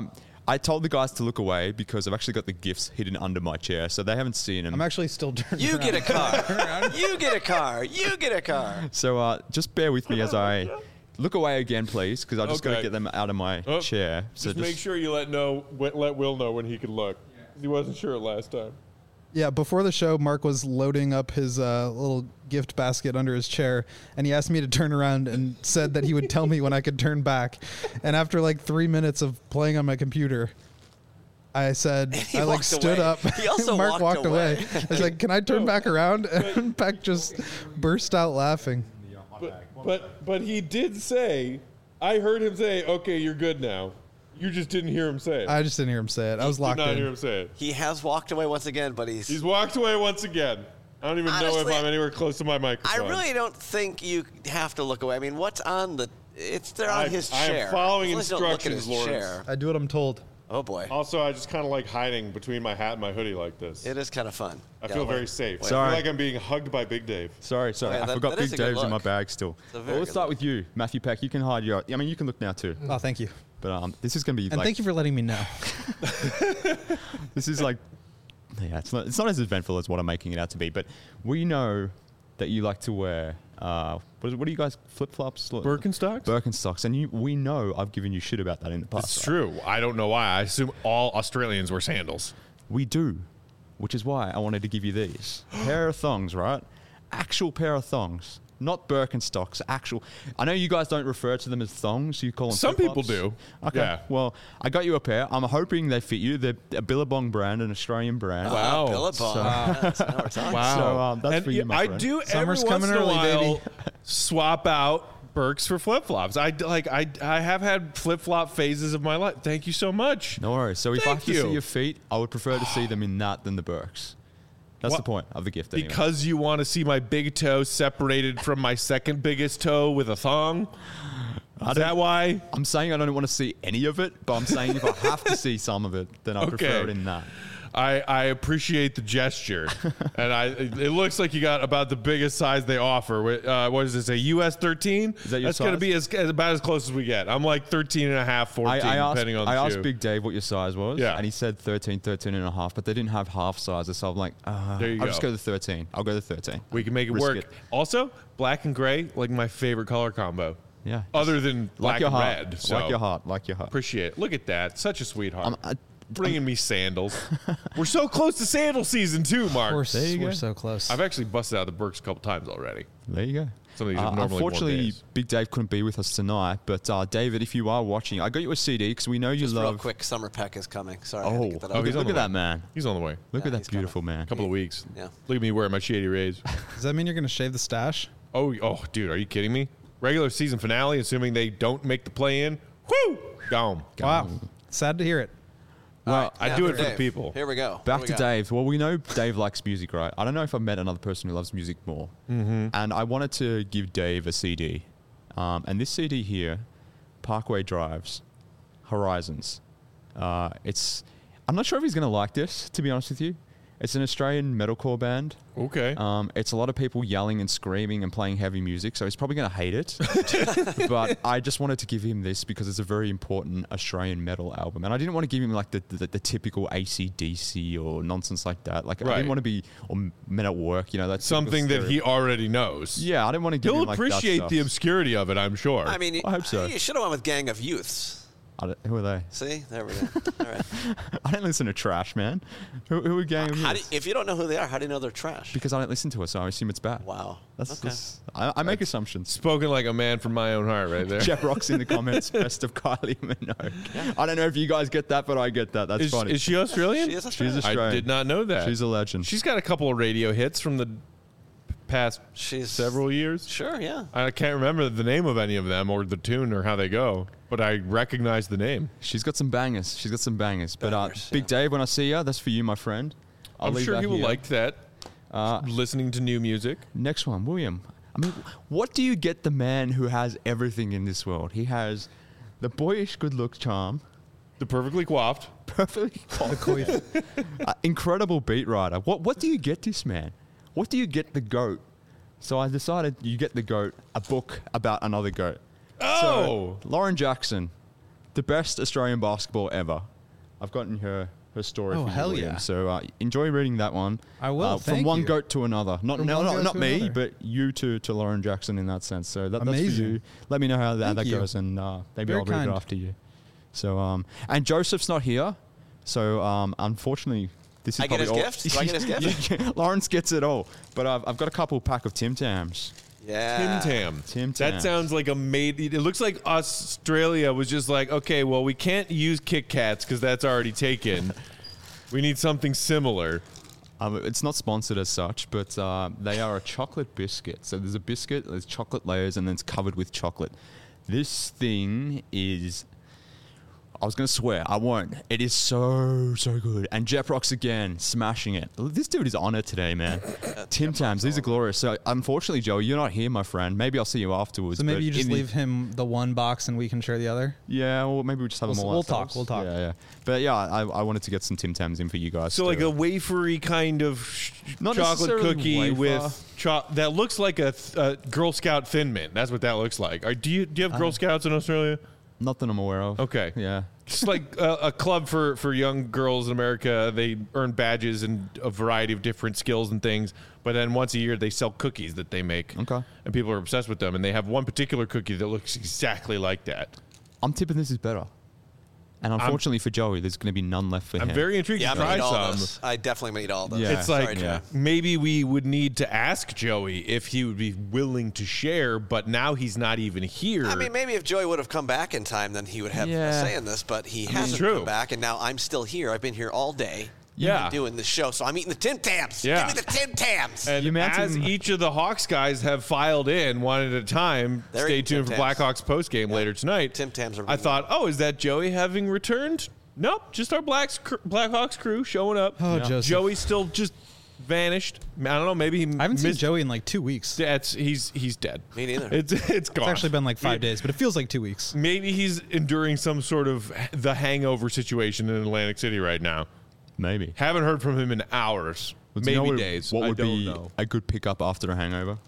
Speaker 4: I told the guys to look away because I've actually got the gifts hidden under my chair, so they haven't seen them.
Speaker 3: I'm actually still turning
Speaker 2: You
Speaker 3: around.
Speaker 2: get a car. You get a car. You get a car.
Speaker 4: So uh, just bear with me as I look away again, please, because I just got to
Speaker 1: Okay.
Speaker 4: get them out of my
Speaker 1: Oh,
Speaker 4: chair. So
Speaker 1: just, make sure you let know let Will know when he can look. He wasn't sure last time.
Speaker 3: Yeah, before the show, Mark was loading up his uh, little gift basket under his chair, and he asked me to turn around and said that he would tell me when I could turn back. And after like three minutes of playing on my computer, I said,
Speaker 2: He
Speaker 3: I like
Speaker 2: walked
Speaker 3: stood
Speaker 2: away.
Speaker 3: up.
Speaker 2: He also
Speaker 3: Mark
Speaker 2: walked
Speaker 3: walked away.
Speaker 2: away.
Speaker 3: I was like, can I turn back around? And Peck just burst out laughing.
Speaker 1: But, but but he did say, I heard him say, "Okay, you're good now." You just didn't hear him say it.
Speaker 3: I just didn't hear him say it. I was
Speaker 1: did
Speaker 3: locked
Speaker 1: not
Speaker 3: in.
Speaker 1: hear him say it.
Speaker 2: He has walked away once again, but he's.
Speaker 1: He's walked away once again. I don't even know
Speaker 2: Honestly,
Speaker 1: if I'm anywhere close to my
Speaker 2: I
Speaker 1: microphone.
Speaker 2: really don't think you have to look away. I mean, what's on the? It's there on
Speaker 1: I-
Speaker 2: his
Speaker 1: I am
Speaker 2: chair.
Speaker 1: following
Speaker 2: As long as you don't look at
Speaker 1: instructions,
Speaker 2: his
Speaker 1: Lawrence.
Speaker 2: chair.
Speaker 3: I do what I'm told.
Speaker 2: Oh boy,
Speaker 1: Also, I just kind of like hiding between my hat and my hoodie like this.
Speaker 2: it is kind of fun.
Speaker 1: I
Speaker 2: Yeah,
Speaker 1: feel
Speaker 2: wait.
Speaker 1: very safe. I
Speaker 4: Sorry.
Speaker 1: feel like I'm being hugged by Big Dave.
Speaker 4: Sorry, sorry.
Speaker 2: Oh, yeah,
Speaker 4: I
Speaker 2: that-
Speaker 4: forgot
Speaker 2: that is
Speaker 4: Big
Speaker 2: a good
Speaker 4: Dave's in my
Speaker 2: look.
Speaker 4: bag still.
Speaker 2: a
Speaker 4: Well,
Speaker 2: very
Speaker 4: let's
Speaker 2: good
Speaker 4: start
Speaker 2: look.
Speaker 4: with you, Matthew Peck. You can hide your. I mean, you can look now too.
Speaker 3: Oh, thank you.
Speaker 4: But um, this is going to be
Speaker 3: And
Speaker 4: like.
Speaker 3: thank you for letting me know.
Speaker 4: This is like. Yeah, it's not. It's not as eventful as what I'm making it out to be. But we know that you like to wear. Uh, what, is, what do you guys flip flops?
Speaker 1: Birkenstocks?
Speaker 4: Birkenstocks, and you. We know I've given you shit about that in the past.
Speaker 1: It's
Speaker 4: right?
Speaker 1: true. I don't know why. I assume all Australians wear sandals.
Speaker 4: We do, which is why I wanted to give you these pair of thongs, right? Actual pair of thongs, not Birkenstocks. Actual. I know you guys don't refer to them as thongs. You call them.
Speaker 1: Some people
Speaker 4: flip-flops.
Speaker 1: do.
Speaker 4: Okay.
Speaker 1: Yeah.
Speaker 4: Well, I got you a pair. I'm hoping they fit you. They're a Billabong brand, an Australian brand.
Speaker 1: Wow.
Speaker 2: Uh, Billabong.
Speaker 4: So-
Speaker 2: Yes, now we're talking.
Speaker 1: Wow.
Speaker 4: So, um, that's
Speaker 1: and
Speaker 4: for you,
Speaker 1: yeah,
Speaker 4: my
Speaker 1: I
Speaker 4: friend.
Speaker 1: do
Speaker 3: Summer's
Speaker 1: every once
Speaker 3: coming
Speaker 1: in a
Speaker 3: early,
Speaker 1: while
Speaker 3: baby.
Speaker 1: swap out Birks for flip flops. I d- like I I have had flip flop phases of my life. Thank you so much.
Speaker 4: No worries. So if I
Speaker 1: Thank
Speaker 4: have to
Speaker 1: you.
Speaker 4: see your feet, I would prefer to see them in that than the Birks. That's
Speaker 1: What?
Speaker 4: the point of the gift. Anyway.
Speaker 1: Because you want to see my big toe separated from my second biggest toe with a thong. Is that why?
Speaker 4: I'm saying I don't want to see any of it, but I'm saying if I have to see some of it, then I prefer
Speaker 1: Okay.
Speaker 4: it in that.
Speaker 1: I, I appreciate the gesture, and I it looks like you got about the biggest size they offer. Wh- Uh, what is this, a U S thirteen?
Speaker 4: Is that your
Speaker 1: That's going to
Speaker 4: size?
Speaker 1: be as, as about as close as we get. I'm like thirteen and a half, fourteen,
Speaker 4: I, I asked,
Speaker 1: depending on the
Speaker 4: I asked
Speaker 1: shoe.
Speaker 4: Big Dave what your size was,
Speaker 1: Yeah.
Speaker 4: and he said thirteen, thirteen and a half, but they didn't have half sizes, so I'm like, uh,
Speaker 1: There you
Speaker 4: I'll
Speaker 1: go.
Speaker 4: just go to thirteen. I'll go to thirteen.
Speaker 1: We can make it
Speaker 4: Risk
Speaker 1: work.
Speaker 4: it.
Speaker 1: Also, black and gray, like my favorite color combo.
Speaker 4: Yeah.
Speaker 1: Other than black
Speaker 4: Like your
Speaker 1: and
Speaker 4: heart.
Speaker 1: red. So
Speaker 4: Like your heart. Like your heart.
Speaker 1: Appreciate it. Look at that. Such a sweetheart.
Speaker 4: Um, I-
Speaker 1: Bringing me sandals. We're so close to sandal season too, Mark.
Speaker 3: We're,
Speaker 4: There you
Speaker 3: we're
Speaker 4: go.
Speaker 3: so close.
Speaker 1: I've actually busted out the Birks a couple times already.
Speaker 4: There you go.
Speaker 1: Some of these
Speaker 4: Uh,
Speaker 1: have normally worn
Speaker 4: unfortunately,
Speaker 1: days.
Speaker 4: Big Dave couldn't be with us tonight, but uh, David, if you are watching, I got you a C D because we know you
Speaker 2: Just real
Speaker 4: love.
Speaker 2: quick, Summer Peck is coming. Sorry. I had
Speaker 4: Oh,
Speaker 2: to get that
Speaker 1: Oh,
Speaker 2: out.
Speaker 1: he's
Speaker 4: look
Speaker 1: on
Speaker 4: at
Speaker 1: the
Speaker 4: that
Speaker 1: way.
Speaker 4: man.
Speaker 1: He's on the way.
Speaker 4: Look
Speaker 2: Yeah,
Speaker 4: at that
Speaker 2: he's coming.
Speaker 4: beautiful man.
Speaker 1: A couple of weeks.
Speaker 2: Yeah.
Speaker 1: Look at me wearing my Shady Rays.
Speaker 3: Does that mean you're going to shave the stash?
Speaker 1: Oh, oh, dude, are you kidding me? Regular season finale, assuming they don't make the play in. Woo! Gone.
Speaker 3: Wow. Sad to hear it.
Speaker 1: Well, I
Speaker 2: Yeah,
Speaker 1: do it for the
Speaker 2: Dave.
Speaker 1: people.
Speaker 2: Here we go.
Speaker 4: Back
Speaker 2: What
Speaker 4: to
Speaker 2: do we got?
Speaker 4: Dave. Well, we know Dave likes music, right? I don't know if I've met another person who loves music more. Mm-hmm. And I wanted to give Dave a C D. Um, and this C D here, Parkway Drives, Horizons. Uh, it's. I'm not sure if he's going to like this, to be honest with you. It's an Australian metalcore band.
Speaker 1: Okay.
Speaker 4: Um, it's a lot of people yelling and screaming and playing heavy music, so he's probably going to hate it. But I just wanted to give him this because it's a very important Australian metal album, and I didn't want to give him like the the, the typical A C D C or nonsense like that. Like I
Speaker 1: Right.
Speaker 4: didn't want to be or Men at Work, you know, that's
Speaker 1: Something that he already knows.
Speaker 4: Yeah, I didn't want to give
Speaker 1: He'll
Speaker 4: him like that
Speaker 1: appreciate
Speaker 4: stuff.
Speaker 1: the obscurity of it, I'm sure.
Speaker 2: I mean, you,
Speaker 4: I hope so.
Speaker 2: You should have went with Gang of Youths.
Speaker 4: I don't- who are they?
Speaker 2: See, there we go. All right.
Speaker 4: I don't listen to Trash, man. Who, who are Gang of
Speaker 2: How do,
Speaker 4: Youths?
Speaker 2: if you don't know who they are, how do you know they're trash?
Speaker 4: Because I don't listen to it, so I assume it's bad.
Speaker 2: Wow.
Speaker 4: That's,
Speaker 2: okay.
Speaker 4: that's I, I make assumptions.
Speaker 1: Spoken like a man from my own heart right there.
Speaker 4: Jeff Rock's in the comments. Best of Kylie Minogue. I don't know if you guys get that, but I get that. That's
Speaker 1: Is,
Speaker 4: funny.
Speaker 1: is she Australian?
Speaker 2: She is
Speaker 4: She's
Speaker 2: Australian.
Speaker 4: Australian.
Speaker 1: I did not know that.
Speaker 4: She's a legend.
Speaker 1: She's got a couple of radio hits from the past
Speaker 2: She's
Speaker 1: several years.
Speaker 2: Sure, yeah.
Speaker 1: I can't remember the name of any of them or the tune or how they go, but I recognize the name.
Speaker 4: She's got some bangers. She's got some bangers. But uh,
Speaker 2: Bangers,
Speaker 4: Big
Speaker 2: yeah.
Speaker 4: Dave, when I see you, that's for you, my friend. I'll
Speaker 1: I'm
Speaker 4: leave
Speaker 1: sure
Speaker 4: that
Speaker 1: he will
Speaker 4: here.
Speaker 1: like that.
Speaker 4: Uh,
Speaker 1: listening to new music.
Speaker 4: Next one, William. I mean, what do you get the man who has everything in this world? He has the boyish good look charm,
Speaker 1: The perfectly coiffed.
Speaker 4: perfectly uh, incredible beat writer. What what do you get this man? What do you get the goat? So I decided you get the goat, a book about another goat.
Speaker 1: Oh!
Speaker 4: So, Lauren Jackson, the best Australian basketball ever. I've gotten her her story.
Speaker 3: Oh,
Speaker 4: for you,
Speaker 3: hell
Speaker 4: William.
Speaker 3: yeah.
Speaker 4: So uh, enjoy reading that one.
Speaker 3: I will,
Speaker 4: Uh, from
Speaker 3: thank
Speaker 4: one
Speaker 3: you.
Speaker 4: goat to another. Not
Speaker 3: From
Speaker 4: no,
Speaker 3: one
Speaker 4: not,
Speaker 3: goat
Speaker 4: not
Speaker 3: to
Speaker 4: me,
Speaker 3: another.
Speaker 4: but you to to Lauren Jackson in that sense. So that, that's for
Speaker 3: Amazing.
Speaker 4: you. Let me know how that,
Speaker 3: Thank
Speaker 4: that
Speaker 3: you.
Speaker 4: goes, and uh, maybe
Speaker 3: Very
Speaker 4: I'll read
Speaker 3: kind.
Speaker 4: it after you. So um, and Joseph's not here, so um, unfortunately. This is
Speaker 2: I get his
Speaker 4: probably all-
Speaker 2: gift? Do I get his gift?
Speaker 4: Yeah, Lawrence gets it all, but I've, I've got a couple pack of Tim Tams.
Speaker 2: Yeah.
Speaker 1: Tim Tam.
Speaker 4: Tim
Speaker 1: That
Speaker 4: Tams.
Speaker 1: sounds like a made. It looks like Australia was just like, okay, well, we can't use Kit Kats because that's already taken. We need something similar.
Speaker 4: Um, it's not sponsored as such, but uh, they are a chocolate biscuit. So there's a biscuit, there's chocolate layers, and then it's covered with chocolate. This thing is. I was going to swear. I won't. It is so, so good. And Jeprox again, smashing it. This dude is on it today, man. Tim Tams, these are glorious. So, unfortunately, Joe, you're not here, my friend. Maybe I'll see you afterwards.
Speaker 3: So maybe
Speaker 4: but
Speaker 3: you just
Speaker 4: in the-
Speaker 3: leave him the one box and we can share the other.
Speaker 4: Yeah, or maybe we just have
Speaker 3: We'll
Speaker 4: them
Speaker 3: s-
Speaker 4: all
Speaker 3: we'll
Speaker 4: ourselves.
Speaker 3: talk, we'll talk.
Speaker 4: Yeah, yeah. But yeah, I, I wanted to get some Tim Tams in for you guys.
Speaker 1: So like
Speaker 4: too.
Speaker 1: a wafery kind of sh-
Speaker 4: Not
Speaker 1: chocolate
Speaker 4: necessarily
Speaker 1: cookie
Speaker 4: wafer.
Speaker 1: with cho- that looks like a, th- a Girl Scout Thin Mint. That's what that looks like. Are, do you do you have Girl Scouts in Australia?
Speaker 4: Not that I'm aware of.
Speaker 1: Okay.
Speaker 4: Yeah.
Speaker 1: Just like a, a club for, for young girls in America. They earn badges and a variety of different skills and things. But then once a year, they sell cookies that they make.
Speaker 4: Okay.
Speaker 1: And people are obsessed with them. And they have one particular cookie that looks exactly like that.
Speaker 4: I'm tipping this is better. And unfortunately for Joey, there's going to be none left for
Speaker 1: I'm
Speaker 4: him.
Speaker 1: very intrigued
Speaker 2: Yeah,
Speaker 1: to
Speaker 2: I'm gonna
Speaker 1: try
Speaker 2: eat all
Speaker 1: some.
Speaker 2: this. I definitely gonna eat all this.
Speaker 4: Yeah.
Speaker 1: It's
Speaker 2: Sorry,
Speaker 1: like
Speaker 2: Trey.
Speaker 1: maybe we would need to ask Joey if he would be willing to share, but now he's not even here.
Speaker 2: I mean, maybe if Joey would have come back in time, then he would have
Speaker 4: Yeah.
Speaker 2: a say in this. But he hasn't
Speaker 1: True.
Speaker 2: come back, and now I'm still here. I've been here all day.
Speaker 1: Yeah.
Speaker 2: doing this show, so I'm eating the Tim Tams.
Speaker 1: Yeah.
Speaker 2: Give me the Tim Tams.
Speaker 1: and
Speaker 4: You imagine-
Speaker 1: as each of the Hawks guys have filed in one at a time,
Speaker 2: They're
Speaker 1: stay
Speaker 2: eating
Speaker 1: tuned
Speaker 2: Tim
Speaker 1: for
Speaker 2: Tams.
Speaker 1: Blackhawks post game later tonight.
Speaker 2: Tim Tams are
Speaker 1: I thought, oh, is that Joey having returned? Nope, just our Blacks cr- Blackhawks crew showing up.
Speaker 3: Oh, Joseph.
Speaker 1: Joey still just vanished. I don't know. Maybe he
Speaker 3: I haven't seen
Speaker 1: missed.
Speaker 3: Joey in like two weeks.
Speaker 1: That's he's he's dead.
Speaker 2: Me neither.
Speaker 1: It's it's gone.
Speaker 3: It's actually been like five days, but it feels like two weeks.
Speaker 1: Maybe he's enduring some sort of the hangover situation in Atlantic City right now.
Speaker 4: Maybe.
Speaker 1: Haven't heard from him in hours,
Speaker 4: Well, do you
Speaker 1: maybe
Speaker 4: know what-
Speaker 1: days.
Speaker 4: What
Speaker 1: I
Speaker 4: would
Speaker 1: don't
Speaker 4: be
Speaker 1: know.
Speaker 4: a good pickup after a hangover?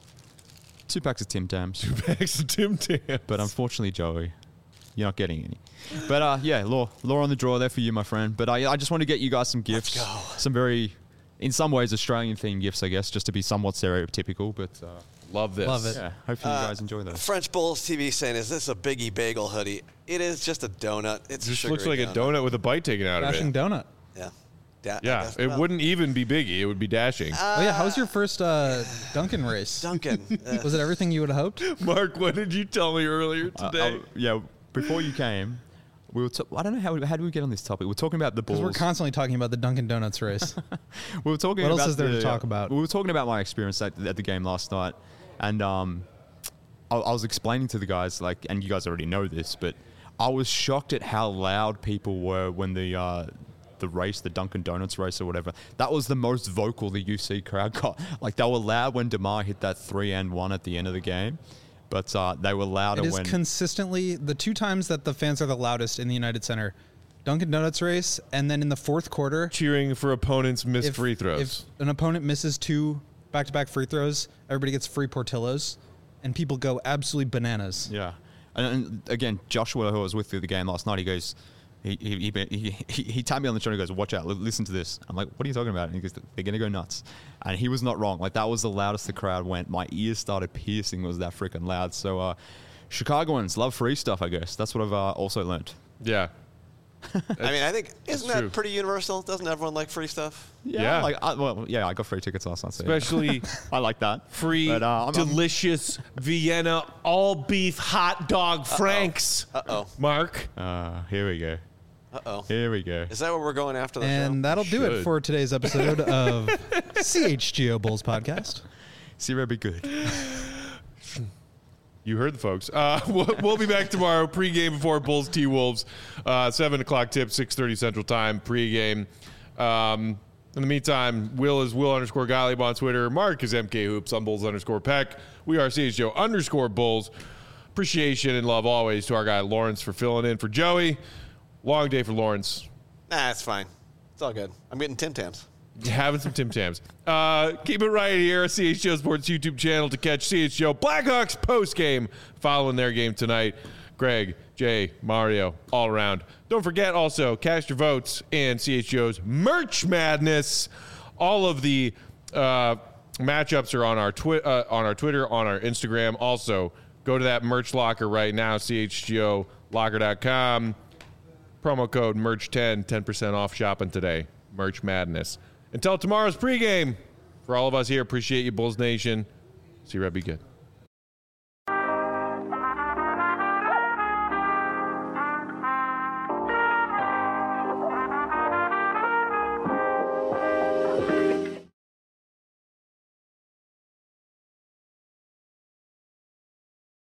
Speaker 4: Two packs of Tim Tams.
Speaker 1: Bags of Tim Tams.
Speaker 4: But unfortunately, Joey, you're not getting any. But uh, yeah, law, law on the draw there for you, my friend. But I, I just want to get you guys some gifts.
Speaker 2: go.
Speaker 4: Some very, in some ways, Australian themed gifts, I guess, just to be somewhat stereotypical. But uh,
Speaker 1: love this.
Speaker 3: Love it.
Speaker 4: yeah, hopefully you guys enjoy those.
Speaker 2: French Bulls T V saying, "Is this a Biggie Bagel hoodie?" It is just a donut. It's
Speaker 1: Just
Speaker 2: a
Speaker 1: looks like
Speaker 2: sugary
Speaker 1: a donut with a bite taken out of
Speaker 3: Dashing
Speaker 1: it.
Speaker 3: donut.
Speaker 2: Yeah. Da- I
Speaker 1: Yeah,
Speaker 2: guess-
Speaker 1: it
Speaker 2: well,
Speaker 1: wouldn't even be Biggie. It would be Dashing.
Speaker 3: oh yeah, how was your first uh, Duncan race?
Speaker 2: Duncan. uh,
Speaker 3: Was it everything you would have hoped?
Speaker 1: Mark, what did you tell me earlier
Speaker 4: Uh,
Speaker 1: today?
Speaker 4: uh, yeah, before you came, we were. T- I don't know how. How did we get on this topic? We're talking about the Bulls.
Speaker 3: Because we're constantly talking about the Dunkin' Donuts race.
Speaker 4: We were talking
Speaker 3: What else
Speaker 4: about
Speaker 3: is there to
Speaker 4: the-
Speaker 3: talk about?
Speaker 4: We were talking about my experience at, at the game last night, and um, I, I was explaining to the guys, like, and you guys already know this, but I was shocked at how loud people were when the uh, the race, the Dunkin' Donuts race or whatever. That was the most vocal the U C crowd got. Like, they were loud when DeMar hit that three and one at the end of the game, but uh, they were louder
Speaker 3: It is
Speaker 4: when.
Speaker 3: consistently the two times that the fans are the loudest in the United Center. Dunkin' Donuts race, and then in the fourth quarter,
Speaker 1: Cheering for opponents' missed
Speaker 3: if,
Speaker 1: free throws.
Speaker 3: if an opponent misses two back-to-back free throws, everybody gets free Portillos, and people go absolutely bananas.
Speaker 4: Yeah, and, and again, Joshua, who I was with through the game last night, he goes, he he he, he, he, he tapped me on the shoulder and goes, "Watch out! Li- listen to this." I'm like, "What are you talking about?" And he goes, "They're gonna go nuts," and he was not wrong. Like, that was the loudest the crowd went. My ears started piercing. It was that freaking loud. So, uh, Chicagoans love free stuff. I guess that's what I've uh, also learned.
Speaker 1: yeah.
Speaker 2: I mean, I think isn't
Speaker 1: true.
Speaker 2: that pretty universal? Doesn't everyone like free stuff?
Speaker 1: Yeah.
Speaker 4: like I, well, yeah, I got free tickets last night. So yeah.
Speaker 1: Especially
Speaker 4: I like that.
Speaker 1: free,
Speaker 4: But, uh, I'm- I'm-
Speaker 1: delicious Vienna all beef hot dog Franks.
Speaker 2: Uh oh.
Speaker 1: Mark.
Speaker 4: Uh, here we go.
Speaker 2: Uh oh.
Speaker 4: Here we go.
Speaker 2: Is that where we're going after the
Speaker 3: And
Speaker 2: show?
Speaker 3: that'll do it
Speaker 1: Should.
Speaker 3: for today's episode of C H G O Bulls Podcast.
Speaker 4: Zero be good.
Speaker 1: You heard the folks. Uh, we'll, we'll be back tomorrow. Pre-game before Bulls T Wolves. Uh, seven o'clock tip, six thirty Central Time. Pre-game. Um, in the meantime, Will is Will underscore Gottlieb on Twitter. Mark is M K Hoops on Bulls underscore Peck. We are C H G O underscore Bulls. Appreciation and love always to our guy Lawrence for filling in for Joey. Long day for Lawrence.
Speaker 2: Nah, it's fine. It's all good. I'm getting Tim Tams.
Speaker 1: Having some Tim Tams. Uh, keep it right here, C H G O Sports YouTube channel to catch C H G O Blackhawks post game following their game tonight. Greg, Jay, Mario, all around. Don't forget also, cast your votes in C H G O's Merch Madness. All of the uh, matchups are on our, twi- uh, on our Twitter, on our Instagram. Also, go to that merch locker right now, C H G O locker dot com. Promo code merch ten, ten percent off shopping today. Merch Madness. Until tomorrow's pregame, for all of us here, appreciate you, Bulls Nation. See you, Red. Be good.